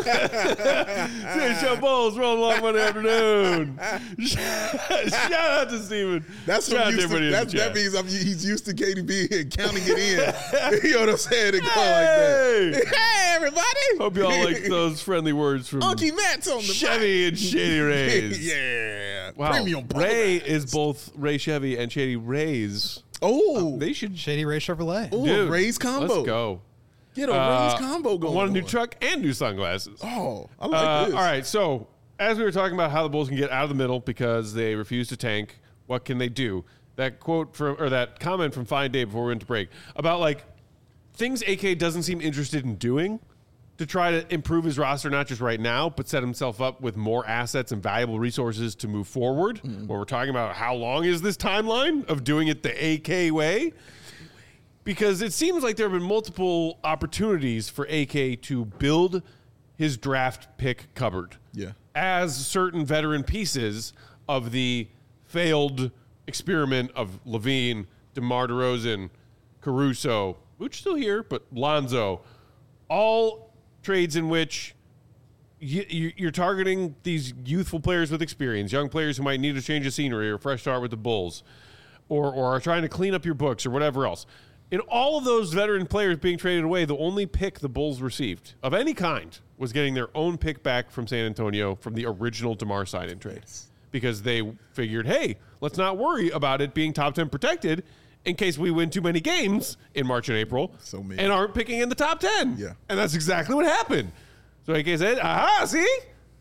CHO Bulls rolling along Monday afternoon. Shout out to Steven.
That's what that means he's used to KDB and counting it in. You know what I'm saying? And go like that. Hey, everybody.
Hope you all like those friendly words from
Unky Matt's on the
Chevy and Shady Rays.
Yeah.
Wow.
Premium
Ray is both Ray Chevy and Shady Rays.
Oh.
They should.
Shady Ray Chevrolet.
Oh,
Dude,
a Rays combo.
Let's go.
Get a Rays combo going.
I want a new truck and new sunglasses.
Oh, I like this.
All right, so as we were talking about how the Bulls can get out of the middle because they refuse to tank, what can they do? That quote from, or that comment from Fine Day before we went to break about like things AK doesn't seem interested in doing to try to improve his roster, not just right now, but set himself up with more assets and valuable resources to move forward. When we're talking about how long is this timeline of doing it the AK way? Because it seems like there have been multiple opportunities for AK to build his draft pick cupboard.
Yeah.
As certain veteran pieces of the failed experiment of Levine, DeMar DeRozan, Caruso, which still here, but Lonzo, all trades in which you're targeting these youthful players with experience, young players who might need a change of scenery or a fresh start with the Bulls, or are trying to clean up your books or whatever else. In all of those veteran players being traded away, the only pick the Bulls received of any kind was getting their own pick back from San Antonio from the original DeMar sign-in trade. Yes. Because they figured, hey, let's not worry about it being top 10 protected in case we win too many games in March and April and aren't picking in the top 10.
Yeah.
And that's exactly what happened. So AK said, aha, see?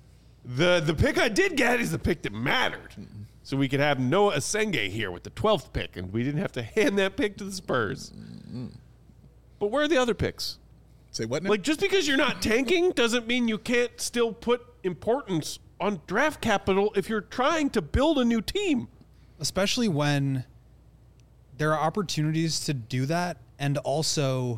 The pick I did get is the pick that mattered. Mm-hmm. So we could have Noah Asenge here with the 12th pick, and we didn't have to hand that pick to the Spurs. Mm-hmm. But where are the other picks?
Say what now?
Like, just because you're not tanking doesn't mean you can't still put importance on draft capital if you're trying to build a new team.
Especially when there are opportunities to do that and also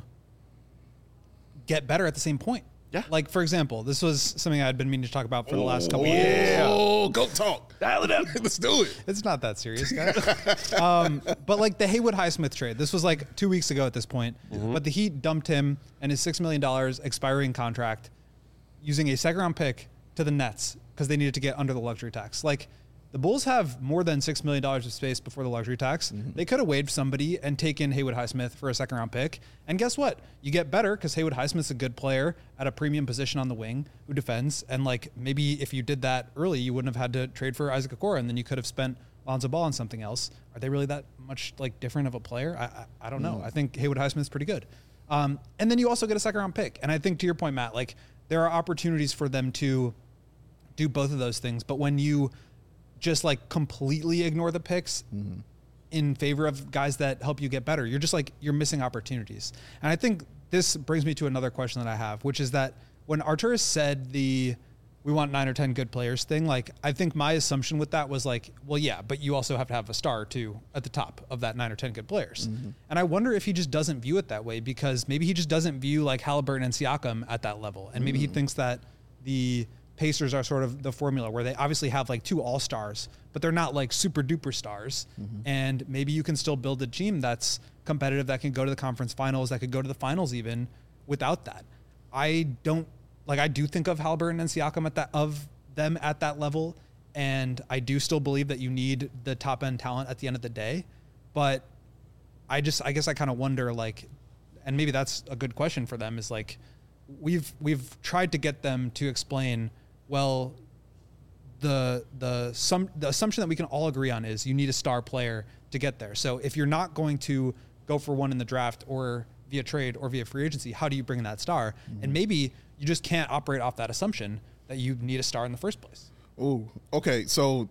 get better at the same point.
Yeah.
Like, for example, this was something I had been meaning to talk about for the last couple
of
years.
Yeah.
Oh, go talk.
Dial it up.
Let's do it.
It's not that serious, guys. But like the Haywood Highsmith trade, this was like 2 weeks ago at this point. Mm-hmm. But the Heat dumped him and his $6 million expiring contract using a second-round pick to the Nets because they needed to get under the luxury tax. Like, the Bulls have more than $6 million of space before the luxury tax. Mm-hmm. They could have waived somebody and taken Haywood Highsmith for a second-round pick. And guess what? You get better because Haywood Highsmith's a good player at a premium position on the wing who defends. And, like, maybe if you did that early, you wouldn't have had to trade for Isaac Okoro, and then you could have spent Lonzo Ball and something else, are they really that much like different of a player? I don't know. I think Haywood Highsmith's pretty good. And then you also get a second round pick. And I think to your point, Matt, like there are opportunities for them to do both of those things. But when you just like completely ignore the picks in favor of guys that help you get better, you're just like, you're missing opportunities. And I think this brings me to another question that I have, which is that when Arturas said we want 9 or 10 good players thing, like I think my assumption with that was like, well, yeah, but you also have to have a star too at the top of that 9 or 10 good players. And I wonder if he just doesn't view it that way, because maybe he just doesn't view like Halliburton and Siakam at that level. And maybe he thinks that the Pacers are sort of the formula where they obviously have like 2 all-stars, but they're not like super duper stars. And maybe you can still build a team that's competitive, that can go to the conference finals, that could go to the finals even without that. I do think of Halliburton and Siakam at that level, and I do still believe that you need the top end talent at the end of the day. But I guess I kind of wonder, like, and maybe that's a good question for them, is like, we've tried to get them to explain, well, the assumption that we can all agree on is you need a star player to get there. So if you're not going to go for one in the draft or via trade or via free agency, how do you bring that star? And maybe you just can't operate off that assumption that you need a star in the first place.
Ooh, okay. So,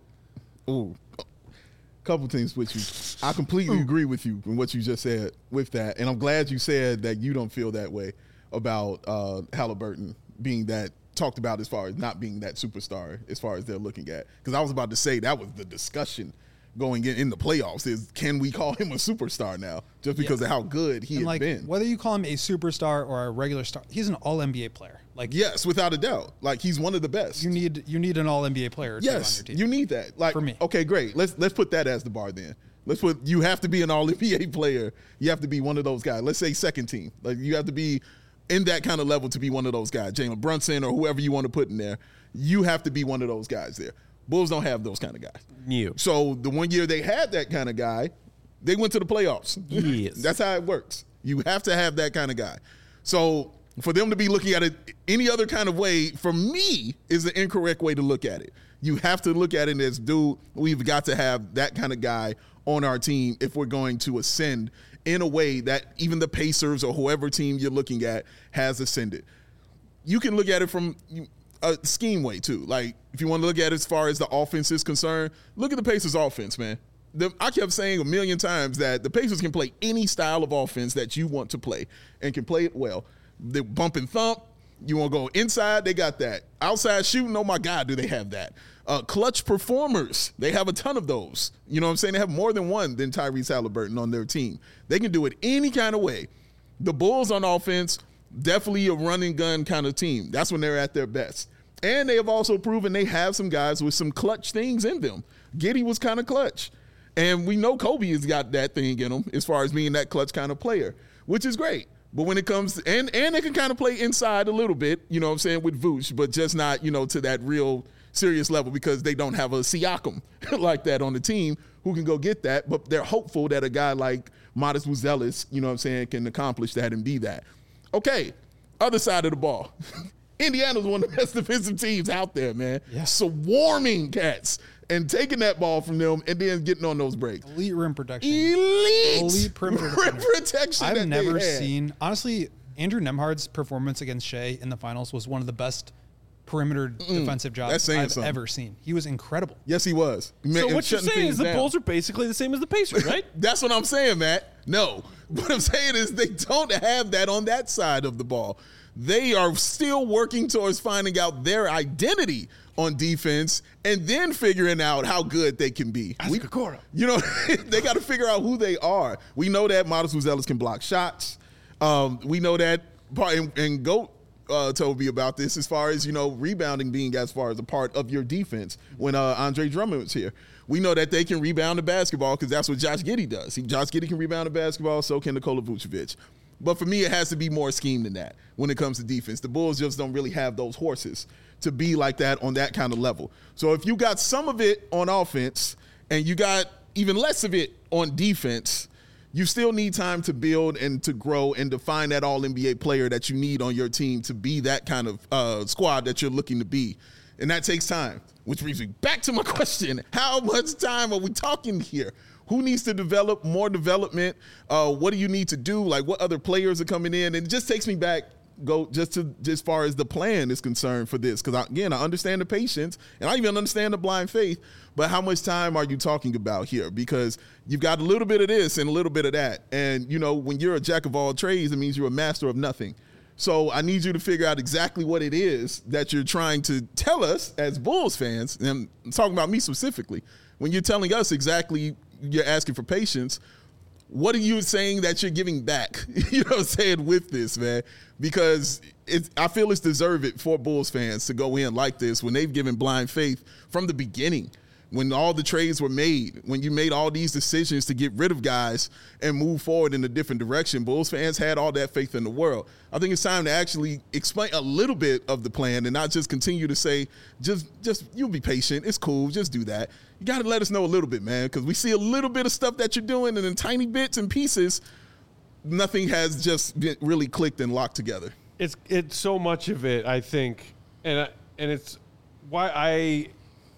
couple things with you. I completely agree with you in what you just said with that. And I'm glad you said that you don't feel that way about Halliburton being that talked about as far as not being that superstar as far as they're looking at. Because I was about to say that was the discussion going in the playoffs is, can we call him a superstar now just because of how good he has been?
Whether you call him a superstar or a regular star, he's an all-NBA player. Like,
yes, without a doubt. Like, he's one of the best.
You need an all-NBA player.
Yes,
on your team.
you need that. Like,
for me.
Okay, great. Let's put that as the bar then. You have to be an all-NBA player. You have to be one of those guys. Let's say second team. Like, you have to be in that kind of level to be one of those guys. Jalen Brunson or whoever you want to put in there. You have to be one of those guys there. Bulls don't have those kind of guys. So the one year they had that kind of guy, they went to the playoffs.
Yes.
That's how it works. You have to have that kind of guy. So for them to be looking at it any other kind of way, for me, is the incorrect way to look at it. You have to look at it as, dude, we've got to have that kind of guy on our team if we're going to ascend in a way that even the Pacers or whoever team you're looking at has ascended. You can look at it from a scheme way too. Like, if you want to look at it as far as the offense is concerned, look at the Pacers offense, man. I kept saying a million times that the Pacers can play any style of offense that you want to play and can play it well. The bump and thump, you want to go inside, they got that. Outside shooting, oh my God, do they have that. Clutch performers, they have a ton of those. You know what I'm saying? They have more than one than Tyrese Halliburton on their team. They can do it any kind of way. The Bulls on offense, definitely a running gun kind of team. That's when they're at their best. And they have also proven they have some guys with some clutch things in them. Giddey was kind of clutch. And we know Kobe has got that thing in him as far as being that clutch kind of player, which is great. But when it comes to, and they can kind of play inside a little bit, you know what I'm saying, with Vooch, but just not, to that real serious level because they don't have a Siakam like that on the team who can go get that. But they're hopeful that a guy like Modest Buzelis, you know what I'm saying, can accomplish that and be that. Okay, other side of the ball. Indiana's one of the best defensive teams out there, man. Yeah. Swarming cats and taking that ball from them and then getting on those breaks.
Elite rim protection.
Elite
perimeter
rim protection.
I've never seen, honestly, Andrew Nembhard's performance against Shea in the finals was one of the best perimeter defensive jobs I've ever seen. He was incredible.
Yes, he was.
So what you're saying is the Bulls are basically the same as the Pacers, right?
That's what I'm saying, Matt. No. What I'm saying is they don't have that on that side of the ball. They are still working towards finding out their identity on defense and then figuring out how good they can be. They got to figure out who they are. We know that Modest Buzelis can block shots. We know that, and Goat told me about this as far as, rebounding being as far as a part of your defense when Andre Drummond was here. We know that they can rebound the basketball because that's what Josh Giddey does. Josh Giddey can rebound the basketball, so can Nikola Vucevic. But for me, it has to be more scheme than that when it comes to defense. The Bulls just don't really have those horses to be like that on that kind of level. So if you got some of it on offense and you got even less of it on defense, you still need time to build and to grow and to find that all-NBA player that you need on your team to be that kind of squad that you're looking to be. And that takes time. which brings me back to my question. How much time are we talking here? Who needs to develop more development? What do you need to do? Like, what other players are coming in? And it just takes me back, just as far as the plan is concerned for this. Because, again, I understand the patience, and I even understand the blind faith. But how much time are you talking about here? Because you've got a little bit of this and a little bit of that. And, you know, when you're a jack of all trades, it means you're a master of nothing. So I need you to figure out exactly what it is that you're trying to tell us as Bulls fans. And I'm talking about me specifically. When you're telling us exactly you're asking for patience, what are you saying that you're giving back? You know what I'm saying, with this, man? Because I feel it's deserved for Bulls fans to go in like this when they've given blind faith from the beginning. When all the trades were made, when you made all these decisions to get rid of guys and move forward in a different direction, Bulls fans had all that faith in the world. I think it's time to actually explain a little bit of the plan and not just continue to say, just you'll be patient. It's cool. Just do that. You got to let us know a little bit, man, because we see a little bit of stuff that you're doing, and in tiny bits and pieces, nothing has just been really clicked and locked together.
It's so much of it, I think, and it's why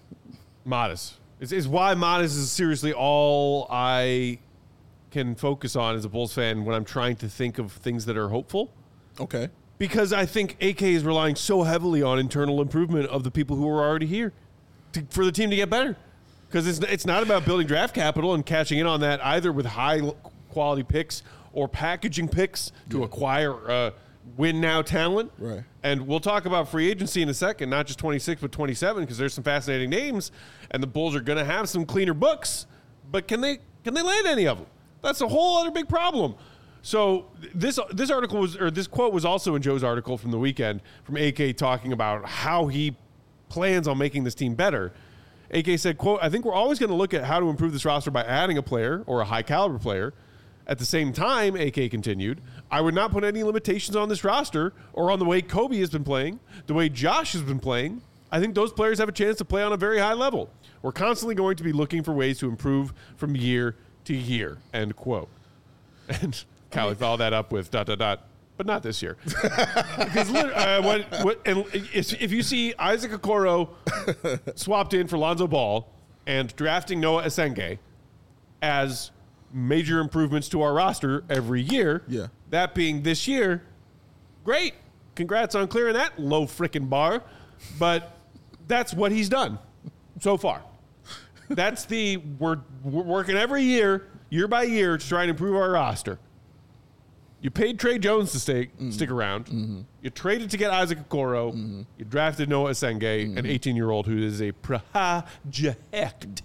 Modest. It's why Modest is seriously all I can focus on as a Bulls fan when I'm trying to think of things that are hopeful.
Okay.
Because I think AK is relying so heavily on internal improvement of the people who are already here for the team to get better. Because it's not about building draft capital and cashing in on that either with high quality picks or packaging picks to acquire win now talent.
Right.
And we'll talk about free agency in a second, not just 26 but 27, because there's some fascinating names and the Bulls are going to have some cleaner books, but can they land any of them? That's a whole other big problem. So this article this quote was also in Joe's article from the weekend from AK talking about how he plans on making this team better. AK said, quote, "I think we're always going to look at how to improve this roster by adding a player or a high caliber player. At the same time," AK continued, "I would not put any limitations on this roster or on the way Kobe has been playing, the way Josh has been playing. I think those players have a chance to play on a very high level. We're constantly going to be looking for ways to improve from year to year," end quote. And Callie followed that up with ... but not this year. Because if you see Isaac Okoro swapped in for Lonzo Ball and drafting Noah Esenge as major improvements to our roster every year, that being this year, great. Congrats on clearing that low frickin' bar. But that's what he's done so far. That's we're working every year by year, to try and improve our roster. You paid Trey Jones to stick around. Mm-hmm. You traded to get Isaac Okoro. Mm-hmm. You drafted Noah Esenge, an 18-year-old who is a project.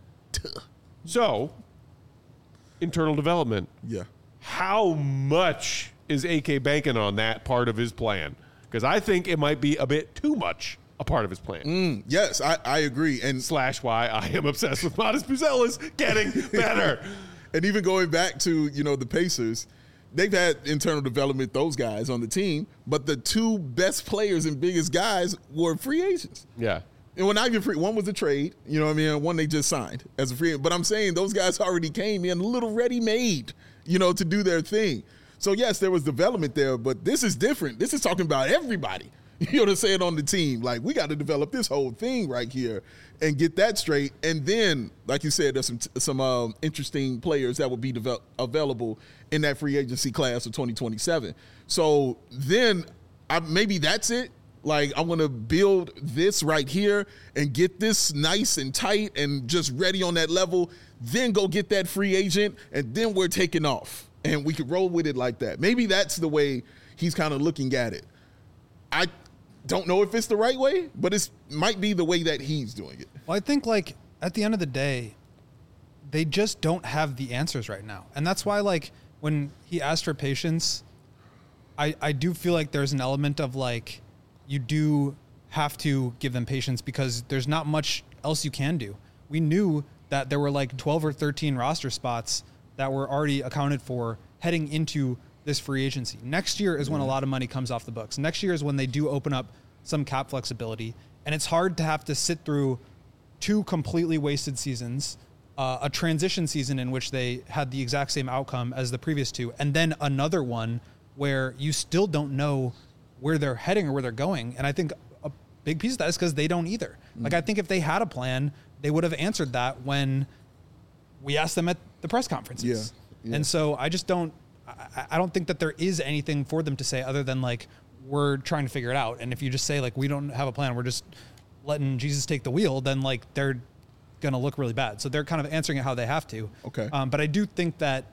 So, internal development.
Yeah.
How much is AK banking on that part of his plan? Because I think it might be a bit too much a part of his plan.
Yes, I agree. And
/ why I am obsessed with Modest Buzelis getting better.
And even going back to, the Pacers, they've had internal development, those guys on the team, but the two best players and biggest guys were free agents.
Yeah.
And when I get free, one was a trade, you know what I mean? One they just signed as a free agent. But I'm saying those guys already came in a little ready-made, to do their thing. So, yes, there was development there, but this is different. This is talking about everybody, you know what I'm saying, on the team. Like, we got to develop this whole thing right here and get that straight. And then, like you said, there's some interesting players that will be available in that free agency class of 2027. So then maybe that's it. Like, I want to build this right here and get this nice and tight and just ready on that level, then go get that free agent, and then we're taking off. And we could roll with it like that. Maybe that's the way he's kind of looking at it. I don't know if it's the right way, but it might be the way that he's doing it.
Well, I think, like, at the end of the day, they just don't have the answers right now. And that's why, like, when he asked for patience, I do feel like there's an element of, like, you do have to give them patience because there's not much else you can do. We knew that there were like 12 or 13 roster spots that were already accounted for heading into this free agency. Next year is when a lot of money comes off the books. Next year is when they do open up some cap flexibility. And it's hard to have to sit through 2 completely wasted seasons, a transition season in which they had the exact same outcome as the previous 2, and then another one where you still don't know where they're heading or where they're going. And I think big piece of that is because they don't either. Like, I think if they had a plan, they would have answered that when we asked them at the press conferences. Yeah. And so I just don't think that there is anything for them to say other than like, we're trying to figure it out. And if you just say like, we don't have a plan, we're just letting Jesus take the wheel, then like they're going to look really bad. So they're kind of answering it how they have to.
Okay.
But I do think that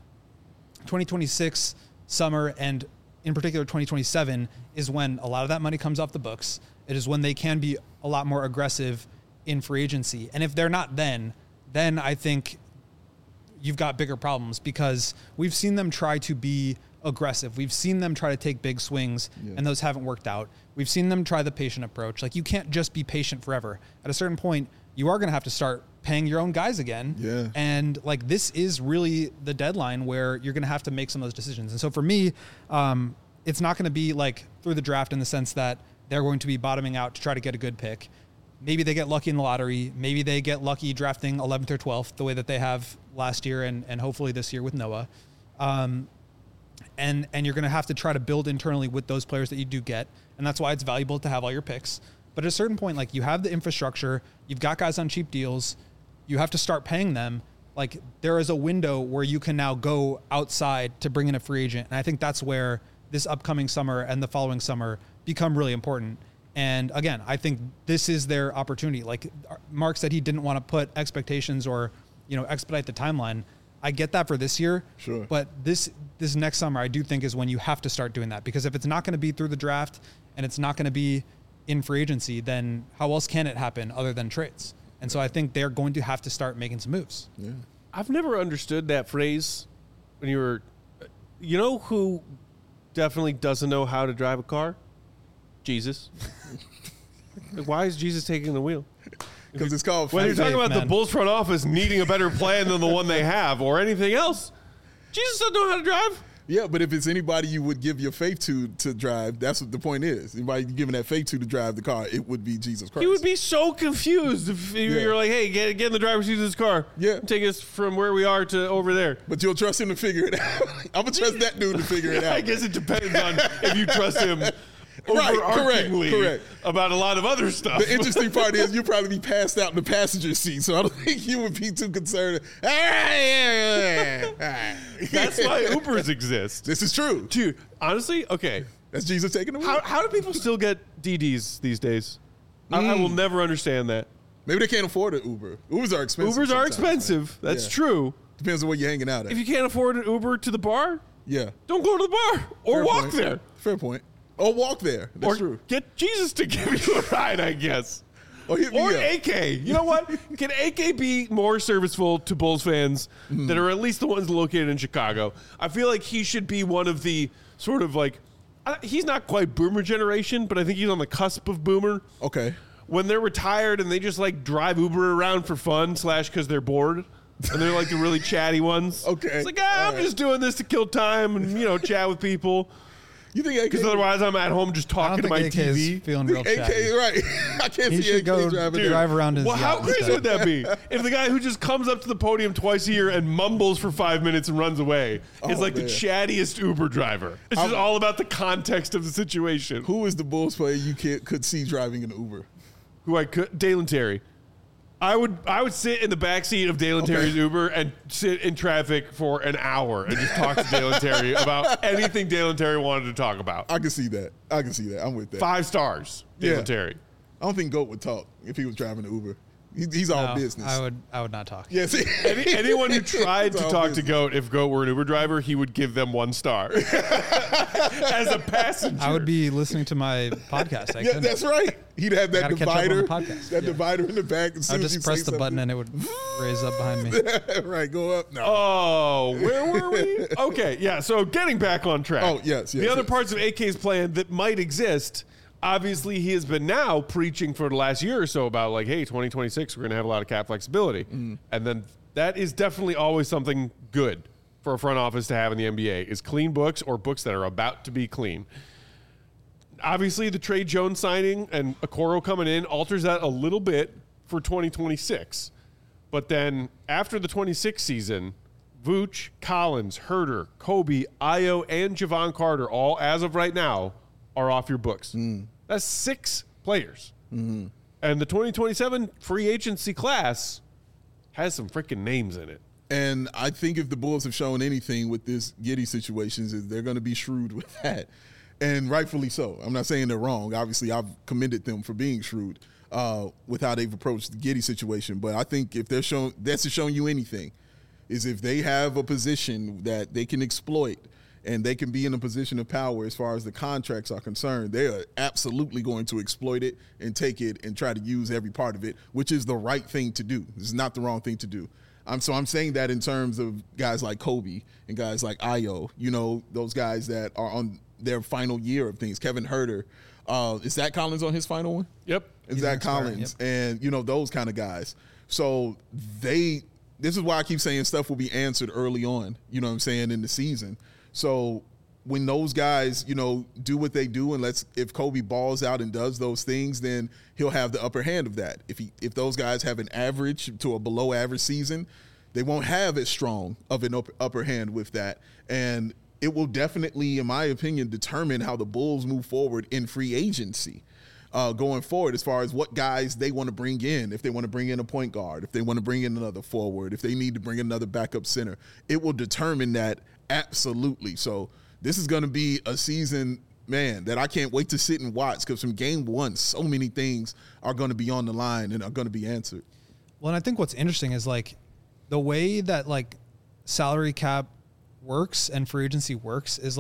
2026 summer and in particular 2027 is when a lot of that money comes off the books. It is when they can be a lot more aggressive in free agency. And if they're not then I think you've got bigger problems because we've seen them try to be aggressive. We've seen them try to take big swings and those haven't worked out. We've seen them try the patient approach. Like, you can't just be patient forever. At a certain point, you are going to have to start paying your own guys again.
Yeah.
And like, this is really the deadline where you're going to have to make some of those decisions. And so for me, it's not going to be like through the draft in the sense that they're going to be bottoming out to try to get a good pick. Maybe they get lucky in the lottery. Maybe they get lucky drafting 11th or 12th, the way that they have last year and hopefully this year with Noah. And you're going to have to try to build internally with those players that you do get. And that's why it's valuable to have all your picks. But at a certain point, like, you have the infrastructure, you've got guys on cheap deals, you have to start paying them. Like, there is a window where you can now go outside to bring in a free agent. And I think that's where this upcoming summer and the following summer become really important. And again, I think this is their opportunity. Like Mark said, he didn't want to put expectations or, expedite the timeline. I get that for this year.
Sure.
But this next summer, I do think is when you have to start doing that, because if it's not going to be through the draft and it's not going to be in free agency, then how else can it happen other than trades? And so I think they're going to have to start making some moves.
Yeah.
I've never understood that phrase when you were, who definitely doesn't know how to drive a car? Jesus. Like, why is Jesus taking the wheel?
Because it's called
When you're talking about the
man.
Bulls front office needing a better plan than the one they have or anything else, Jesus doesn't know how to drive.
Yeah, but if it's anybody you would give your faith to drive, that's what the point is. Anybody you're giving that faith to drive the car, it would be Jesus Christ.
He would be so confused if you're like, hey, get in the driver's seat of this car.
Yeah.
Take us from where we are to over there.
But you'll trust him to figure it out. I'm going to trust that dude to figure it out.
I guess it depends on if you trust him
Right,
overarchingly
correct.
about a lot of other stuff.
The interesting part is you'll probably be passed out in the passenger seat, so I don't think you would be too concerned.
That's why Ubers exist.
This is true.
Dude, honestly, okay.
That's Jesus taking the wheel.
How do people still get DDs these days? I will never understand that.
Maybe they can't afford an Uber. Ubers are expensive.
Ubers are
sometimes,
expensive.
right?
That's
Yeah.
true.
Depends on where you're hanging out at.
If you can't afford an Uber to the bar,
yeah.
don't go to the bar or
Fair
walk
point.
there.
Fair point. Or walk there. That's
Or
true.
get Jesus to give you a ride, I guess.
Or hit me
Or
up.
AK. You know what? Can AK be more serviceful to Bulls fans that are at least the ones located in Chicago? I feel like he should be one of the sort of like, he's not quite boomer generation, but I think he's on the cusp of boomer.
Okay.
When they're retired and they just like drive Uber around for fun / because they're bored. And they're like the really chatty ones.
Okay.
It's like, I'm just doing this to kill time and, chat with people.
You think AK?
Because otherwise I'm at home just
I
talking
don't
to
think
my
AK
TV.
is feeling real
AK,
chatty.
right. I can't
He
see
should
AK
go
driving.
drive around his
Well, how
yacht
crazy
instead.
would that be if the guy who just comes up to the podium twice a year and mumbles for 5 minutes and runs away is like
man.
the chattiest Uber driver? It's just all about the context of the situation.
Who is the Bulls player you could see driving an Uber?
Who I could? Dalen Terry. I would sit in the backseat of Dalen Terry's Uber and sit in traffic for an hour and just talk to Dalen Terry about anything Dalen Terry wanted to talk about.
I can see that. I'm with that.
5 stars, Dalen Terry.
I don't think Goat would talk if he was driving an Uber. He's all
No,
business.
I would not talk.
Yeah, see?
Anyone who tried
It's
to
all
talk to
business.
Goat, if Goat were an Uber driver, he would give them 1 star as a passenger.
I would be listening to my podcast.
Yeah, that's right. He'd have that
Gotta catch up on the
divider,
podcast.
that
Yeah.
divider in the back. As
I
soon
would
as you
just press
say
the button
something.
and it would raise up behind me.
Right, go up. No.
Oh, where were we? Okay, yeah. So getting back on track.
Oh, yes,
The other
yes.
parts of AK's plan that might exist. Obviously, he has been now preaching for the last year or so about like, hey, 2026, we're going to have a lot of cap flexibility, and then that is definitely always something good for a front office to have in the NBA is clean books or books that are about to be clean. Obviously, the Trey Jones signing and Okoro coming in alters that a little bit for 2026. But then after the 26 season, Vooch, Collins, Herter, Kobe, Ayo, and Javon Carter, all as of right now, are off your books. That's 6 players And the 2027 free agency class has some freaking names in it.
And I think if the Bulls have shown anything with this Giddey situations, is they're going to be shrewd with that, and rightfully so. I'm not saying they're wrong. Obviously, I've commended them for being shrewd with how they've approached the Giddey situation. But I think if they're showing, that's showing you anything, is if they have a position that they can exploit and they can be in a position of power as far as the contracts are concerned, they are absolutely going to exploit it and take it and try to use every part of it, which is the right thing to do. This is not the wrong thing to do. So I'm saying that in terms of guys like Kobe and guys like Ayo, those guys that are on their final year of things. Kevin Huerter. Is Zach Collins on his final one?
Yep.
Is Zach Collins. Yep. And, those kind of guys. So this is why I keep saying stuff will be answered early on, in the season. So when those guys, do what they do, and if Kobe balls out and does those things, then he'll have the upper hand of that. If those guys have an average to a below average season, they won't have as strong of an upper hand with that. And it will definitely, in my opinion, determine how the Bulls move forward in free agency going forward, as far as what guys they want to bring in. If they want to bring in a point guard, if they want to bring in another forward, if they need to bring in another backup center, it will determine that absolutely. So this is going to be a season, man, that I can't wait to sit and watch, because from game one, so many things are going to be on the line and are going to be answered.
Well, and I think what's interesting is the way that salary cap works and free agency works is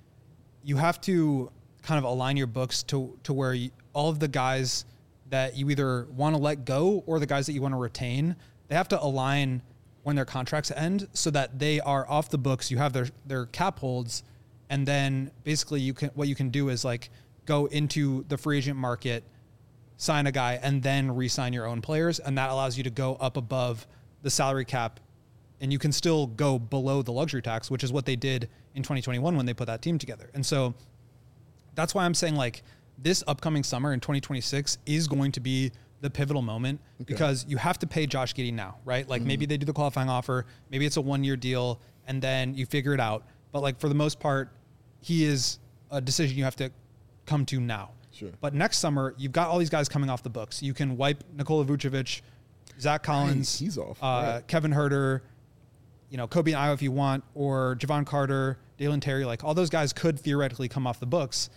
you have to kind of align your books to where all of the guys that you either want to let go or the guys that you want to retain, they have to align when their contracts end so that they are off the books. You have their cap holds. And then basically what you can do is go into the free agent market, sign a guy, and then re-sign your own players. And that allows you to go up above the salary cap, and you can still go below the luxury tax, which is what they did in 2021 when they put that team together. And so that's why I'm saying this upcoming summer in 2026 is going to be the pivotal moment, because you have to pay Josh Giddey now, right? Maybe they do the qualifying offer, maybe it's a 1-year deal, and then you figure it out. But for the most part, he is a decision you have to come to now.
Sure.
But next summer, you've got all these guys coming off the books. You can wipe Nikola Vucevic, Zach Collins,
he's off. Right.
Kevin Huerter, Kobe and Ayo if you want, or Javon Carter, Dalen Terry. All those guys could theoretically come off the books.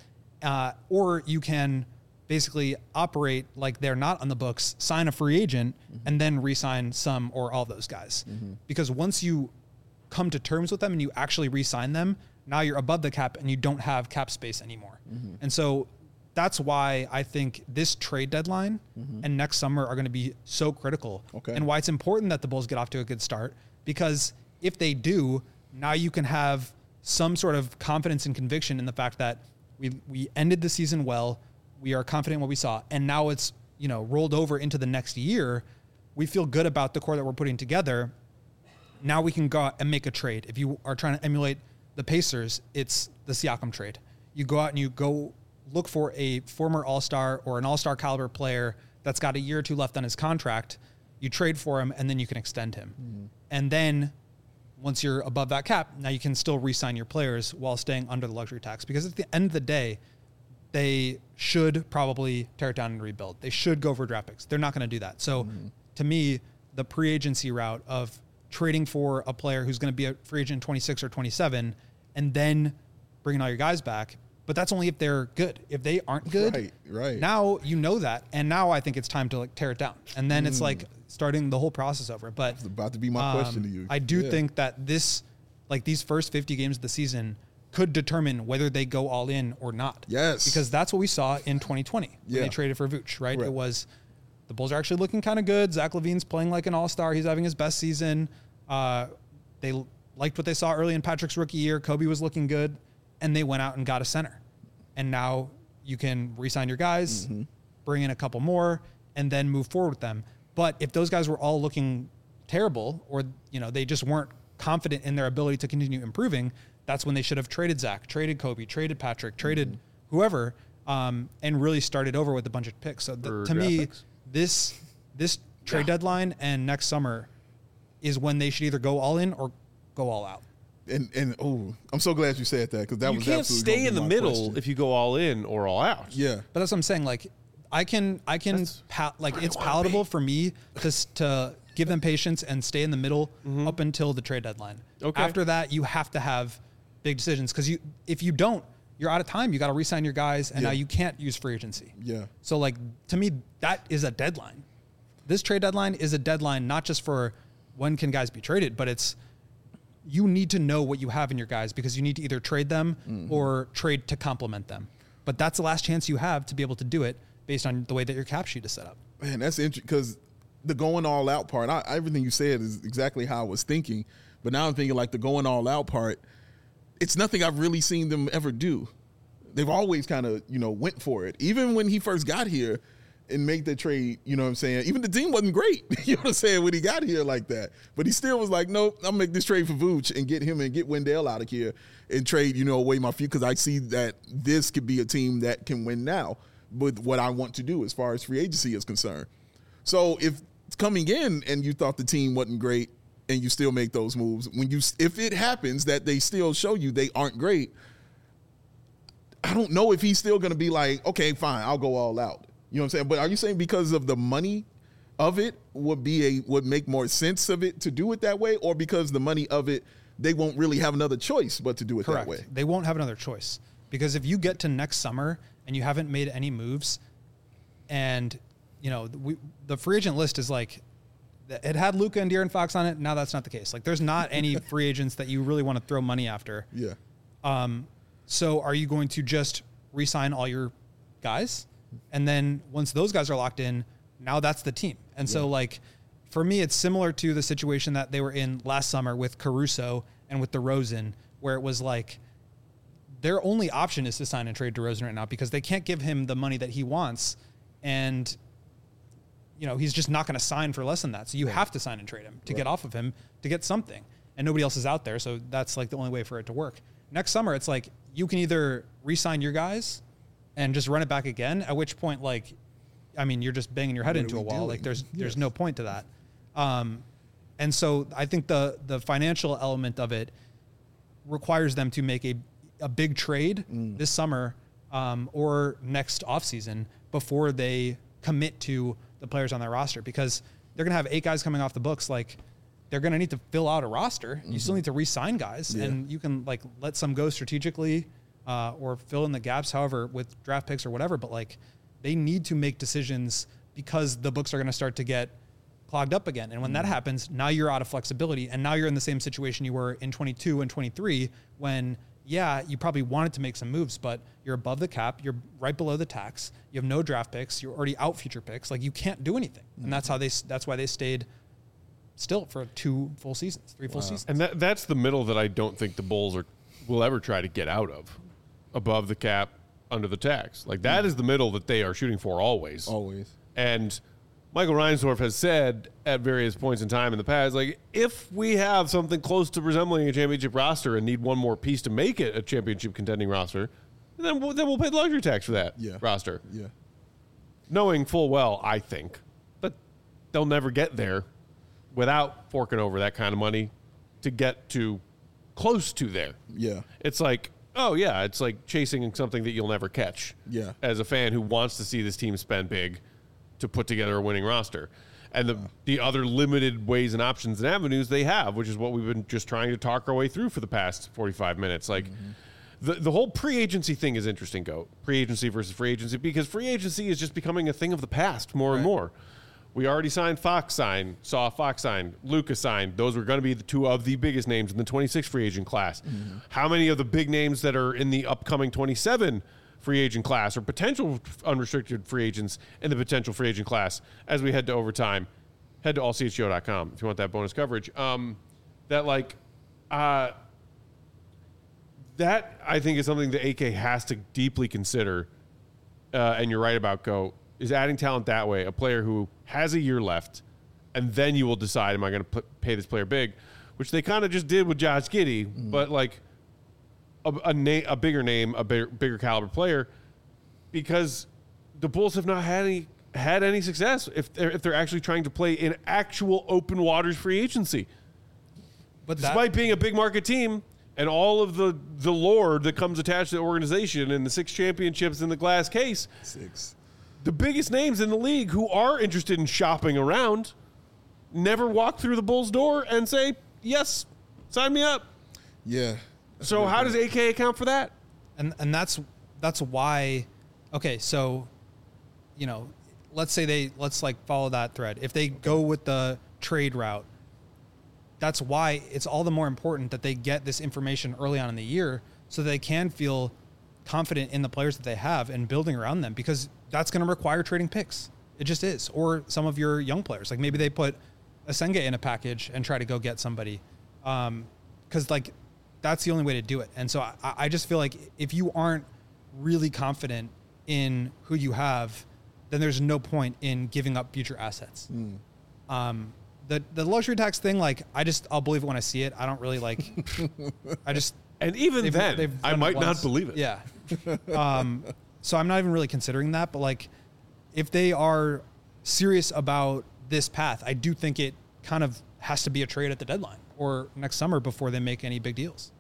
Or you can basically operate like they're not on the books, sign a free agent, and then re-sign some or all those guys. Because once you come to terms with them and you actually re-sign them, now you're above the cap and you don't have cap space anymore. And so that's why I think this trade deadline and next summer are going to be so critical. And why it's important that the Bulls get off to a good start, because if they do, now you can have some sort of confidence and conviction in the fact that we ended the season well, we are confident in what we saw, and now it's rolled over into the next year. We feel good about the core that we're putting together. Now we can go out and make a trade. If you are trying to emulate the Pacers, it's the Siakam trade. You go out and you go look for a former All-Star or an All-Star caliber player that's got a year or two left on his contract. You trade for him, and then you can extend him. And then once you're above that cap, now you can still re-sign your players while staying under the luxury tax. Because at the end of the day, they should probably tear it down and rebuild. They should go for draft picks. They're not going to do that. So to me, the pre-agency route of trading for a player who's going to be a free agent in 26 or 27 and then bringing all your guys back, but that's only if they're good. If they aren't good, now you know that. And now I think it's time to tear it down. And then it's starting the whole process over. But
it's about to be my question to you.
I do think that these first 50 games of the season could determine whether they go all in or not.
Yes.
Because that's what we saw in 2020 when they traded for Vooch, right? It was the Bulls are actually looking kind of good. Zach LaVine's playing like an all-star. He's having his best season. They liked what they saw early in Patrick's rookie year. Kobe was looking good, and they went out and got a center. And now you can re-sign your guys, bring in a couple more, and then move forward with them. But if those guys were all looking terrible, or they just weren't confident in their ability to continue improving, that's when they should have traded Zach, traded Kobe, traded Patrick, traded whoever, and really started over with a bunch of picks. So to me, this trade deadline and next summer is when they should either go all in or go all out.
And I'm so glad you said that, because that was
absolutely. You can't stay in the middle if you go all in or all out.
Yeah,
but that's what I'm saying. I can it's palatable for me to give them patience and stay in the middle up until the trade deadline.
Okay.
After that, you have to have big decisions because if you don't, you're out of time. You got to re-sign your guys, and now you can't use free agency.
Yeah.
So like to me, that is a deadline. This trade deadline is a deadline not just for when can guys be traded, but it's you need to know what you have in your guys because you need to either trade them or trade to complement them. But that's the last chance you have to be able to do it based on the way that your cap sheet is set up.
Man, that's interesting because the going all out part, everything you said is exactly how I was thinking. But now I'm thinking like the going all out part, it's nothing I've really seen them ever do. They've always kind of, went for it. Even when he first got here and made the trade, you know what I'm saying? Even the team wasn't great, you know what I'm saying, when he got here like that. But he still was like, nope, I'll make this trade for Vooch and get him and get Wendell out of here and trade, away my future because I see that this could be a team that can win now with what I want to do as far as free agency is concerned. So if coming in and you thought the team wasn't great and you still make those moves, if it happens that they still show you they aren't great, I don't know if he's still going to be like, okay, fine, I'll go all out. You know what I'm saying? But are you saying because of the money of it would make more sense of it to do it that way, or because the money of it, they won't really have another choice but to do it
Correct.
that way?
They won't have another choice because if you get to next summer and you haven't made any moves, and the free agent list is like it had Luka and De'Aaron Fox on it. Now that's not the case. Like there's not any free agents that you really want to throw money after.
Yeah.
So are you going to just re-sign all your guys? And then once those guys are locked in, now that's the team. And so like for me, it's similar to the situation that they were in last summer with Caruso and with DeRozan, where it was like their only option is to sign and trade DeRozan right now because they can't give him the money that he wants. And, he's just not going to sign for less than that. So you have to sign and trade him to get off of him to get something. And nobody else is out there. So that's like the only way for it to work. Next summer, it's like you can either re-sign your guys and just run it back again, at which point, you're just banging your head into a wall. Like there's no point to that. And so I think the financial element of it requires them to make a big trade this summer or next offseason before they commit to the players on their roster because they're going to have 8 guys coming off the books. Like they're going to need to fill out a roster. You still need to re-sign guys and you can let some go strategically or fill in the gaps, however, with draft picks or whatever. But they need to make decisions because the books are going to start to get clogged up again. And when that happens, now you're out of flexibility. And now you're in the same situation you were in 22 and 23 when, you probably wanted to make some moves, but you're above the cap. You're right below the tax. You have no draft picks. You're already out future picks. You can't do anything. And that's why they stayed still for 2 full seasons, 3 full seasons.
And that's the middle that I don't think the Bulls will ever try to get out of. Above the cap, under the tax. That is the middle that they are shooting for always.
Always.
And Michael Reinsdorf has said at various points in time in the past, if we have something close to resembling a championship roster and need one more piece to make it a championship contending roster, then we'll pay the luxury tax for that roster.
Yeah.
Knowing full well, I think, that they'll never get there without forking over that kind of money to get to close to there.
Yeah.
It's like, it's like chasing something that you'll never catch.
Yeah.
As a fan who wants to see this team spend big to put together a winning roster. And the other limited ways and options and avenues they have, which is what we've been just trying to talk our way through for the past 45 minutes. The whole pre-agency thing is interesting, pre-agency versus free agency, because free agency is just becoming a thing of the past more and more. We already saw Fox sign, Luka sign. Those were going to be the 2 of the biggest names in the 26 free agent class. How many of the big names that are in the upcoming 27 free agent class or potential unrestricted free agents in the potential free agent class as we head to overtime? Head to allchgo.com if you want that bonus coverage. That I think is something that AK has to deeply consider, and you're right about, is adding talent that way, a player who has a year left, and then you will decide, am I going to pay this player big, which they kind of just did with Josh Giddey, but a bigger name, a bigger caliber player, because the Bulls have not had any success if they're actually trying to play in actual open waters free agency. But despite being a big market team and all of the lore that comes attached to the organization and the 6 championships in the glass case,
6.
the biggest names in the league who are interested in shopping around never walk through the Bulls' door and say, yes, sign me up.
Yeah.
So how does AK account for that?
And that's why, okay, so, you know, let's follow that thread. If they go with the trade route, that's why it's all the more important that they get this information early on in the year so that they can feel confident in the players that they have and building around them, because that's going to require trading picks. It just is. Or some of your young players, like maybe they put Asenge in a package and try to go get somebody. Cause like that's the only way to do it. And so I just feel like if you aren't really confident in who you have, then there's no point in giving up future assets. The luxury tax thing, like I'll believe it when I see it. I don't really like,
and even then, I might not believe it.
Yeah. So I'm not even really considering that, but like if they are serious about this path, I do think it kind of has to be a trade at the deadline or next summer before they make any big deals.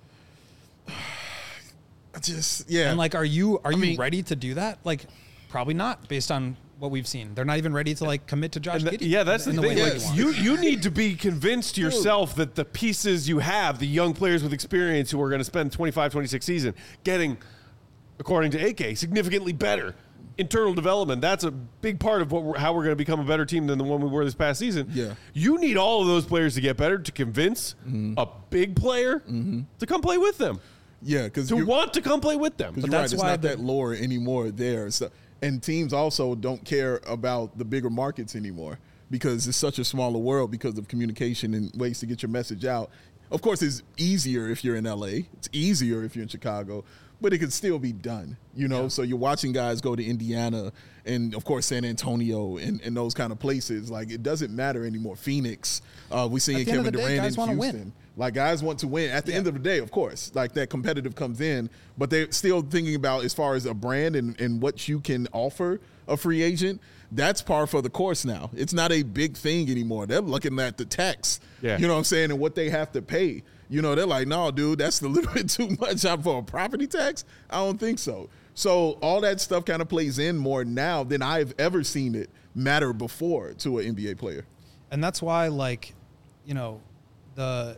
And like, are you ready to do that? Like, probably not, based on what we've seen. They're not even ready to like commit to Josh Giddey.
Yeah, that's the thing. Like, you need to be convinced yourself that the pieces you have, the young players with experience who are going to spend 25-26 season getting, according to AK, significantly better internal development. That's a big part of how we're going to become a better team than the one we were this past season.
Yeah.
You need all of those players to get better to convince a big player to come play with them.
Yeah, because
to want to come play with them.
But that's why it's not that lore anymore there. So, and teams also don't care about the bigger markets anymore because it's such a smaller world because of communication and ways to get your message out. Of course, it's easier if you're in LA. It's easier if you're in Chicago, but it can still be done, you know? Yeah. So you're watching guys go to Indiana and, of course, San Antonio and those kind of places. Like, it doesn't matter anymore. Phoenix, we see Kevin Durant in Houston. Win. Like, guys want to win. At the end of the day, of course, like that competitive comes in, but they're still thinking about as far as a brand and what you can offer a free agent. That's par for the course now. It's not a big thing anymore. They're looking at the tax, you know what I'm saying, and what they have to pay. You know, they're like, no, dude, that's a little bit too much for a property tax. I don't think so. So all that stuff kind of plays in more now than I've ever seen it matter before to an NBA player.
And that's why, like, you know, the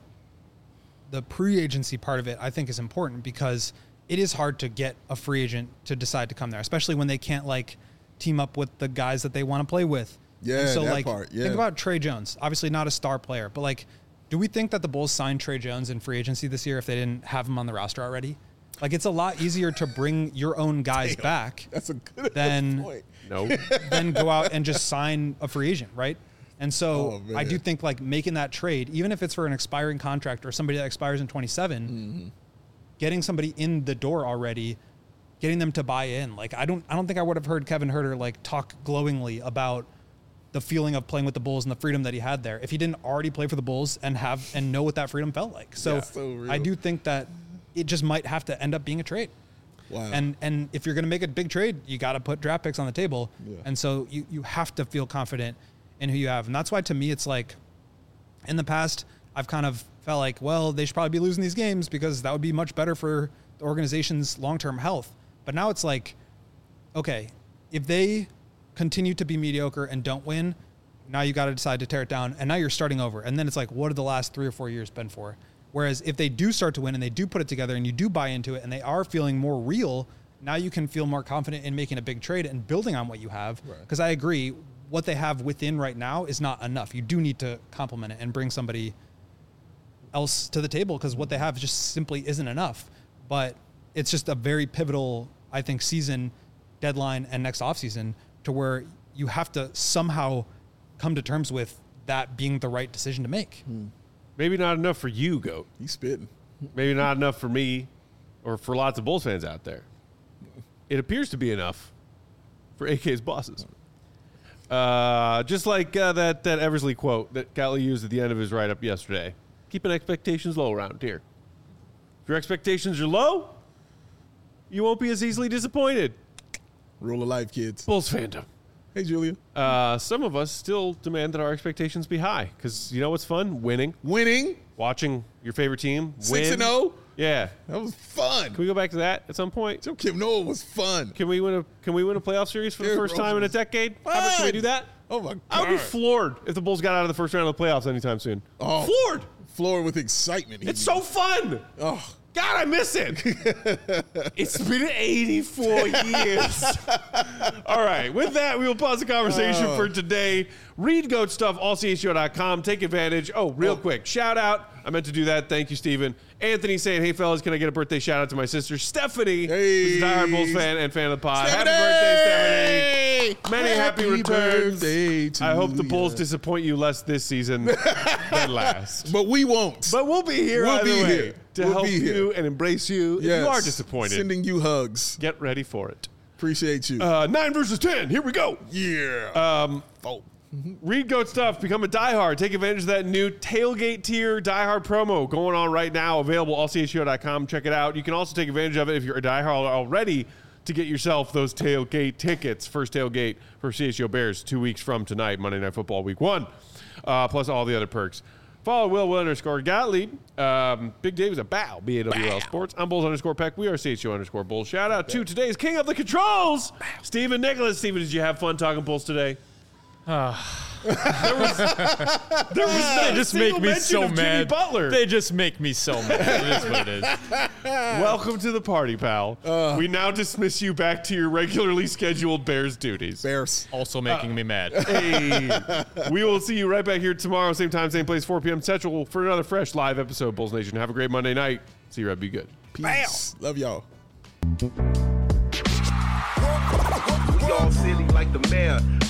pre-agency part of it, I think, is important because it is hard to get a free agent to decide to come there, especially when they can't, like, team up with the guys that they want to play with.
Yeah,
and so,
that
like,
part, yeah.
Think about Trey Jones. Obviously not a star player, but, like, do we think that the Bulls signed Trey Jones in free agency this year if they didn't have him on the roster already? Like, it's a lot easier to bring your own guys back
that's a good
than go out and just sign a free agent, right? And so I do think, like, making that trade, even if it's for an expiring contract or somebody that expires in 27, getting somebody in the door already, getting them to buy in. Like, I don't think I would have heard Kevin Huerter, like, talk glowingly about the feeling of playing with the Bulls and the freedom that he had there if he didn't already play for the Bulls and know what that freedom felt like. So I do think that it just might have to end up being a trade.
Wow.
And if you're going to make a big trade, you got to put draft picks on the table. Yeah. And so you have to feel confident in who you have. And that's why, to me, it's like, in the past, I've kind of felt like, well, they should probably be losing these games because that would be much better for the organization's long-term health. But now it's like, okay, if they continue to be mediocre and don't win, now you got to decide to tear it down. And now you're starting over. And then it's like, what have the last 3 or 4 years been for? Whereas if they do start to win and they do put it together and you do buy into it and they are feeling more real, now you can feel more confident in making a big trade and building on what you have. Because I agree, what they have within right now is not enough. You do need to complement it and bring somebody else to the table because what they have just simply isn't enough. But it's just a very pivotal, I think, season, deadline, and next offseason to where you have to somehow come to terms with that being the right decision to make.
Maybe not enough for you, Goat.
He's spitting.
Maybe not enough for me or for lots of Bulls fans out there. It appears to be enough for AK's bosses. Just like that Eversley quote that Catley used at the end of his write-up yesterday. Keeping expectations low around here. If your expectations are low, you won't be as easily disappointed.
Rule of life, kids.
Bulls fandom.
Hey, Julia.
Some of us still demand that our expectations be high because you know what's fun? Winning.
Winning.
Watching your favorite team win.
6-0.
Yeah.
That was fun.
Can we go back to that at some point?
Joe Kim Noah was fun.
Can we win a playoff series for the
Derrick
first time in a
Rose was
decade? How about, can we do that?
Oh my God.
I would be floored if the Bulls got out of the first round of the playoffs anytime soon.
Oh.
Floored.
Floored with excitement.
It's so fun.
Oh.
God, I miss it. It's been 84 years. All right. With that, we will pause the conversation for today. Read GOAT stuff, allchgo.com. Take advantage. Oh, real quick. Shout out. I meant to do that. Thank you, Steven. Anthony saying, hey, fellas, can I get a birthday shout out to my sister, Stephanie, who's a diehard Bulls fan and fan of the pod.
Stephanie!
Happy birthday, Stephanie. Many happy returns.
Birthday to
I hope the Bulls
ya.
disappoint you less this season than last.
But we won't.
But we'll be here either way to
We'll
help
be here.
you and embrace you if
Yes.
you are disappointed.
Sending you hugs.
Get ready for it.
Appreciate you.
9 versus 10. Here we go.
Yeah.
Read GOAT stuff. Become a diehard. Take advantage of that new tailgate tier diehard promo going on right now. Available allchgo.com. Check it out. You can also take advantage of it if you're a diehard already to get yourself those tailgate tickets. First tailgate for CHGO Bears 2 weeks from tonight, Monday Night Football Week 1. Plus all the other perks. Follow Will_Gottlieb. Big Dave is a bow. BAWL Sports. I'm Bulls_Peck. We are CHGO_Bulls. Shout out to today's King of the Controls, Stephen Nicholas. Stephen, did you have fun talking Bulls today? There was
They just make me so
Jimmy
mad.
Butler.
They just make me so mad. It is what it is.
Welcome to the party, pal. We now dismiss you back to your regularly scheduled Bears duties.
Bears.
Also making me mad.
Hey, we will see you right back here tomorrow, same time, same place, 4 p.m. Central for another fresh live episode. Bulls Nation, have a great Monday night. See you, Red. Be good.
Peace. Love y'all.
We all silly like the mayor.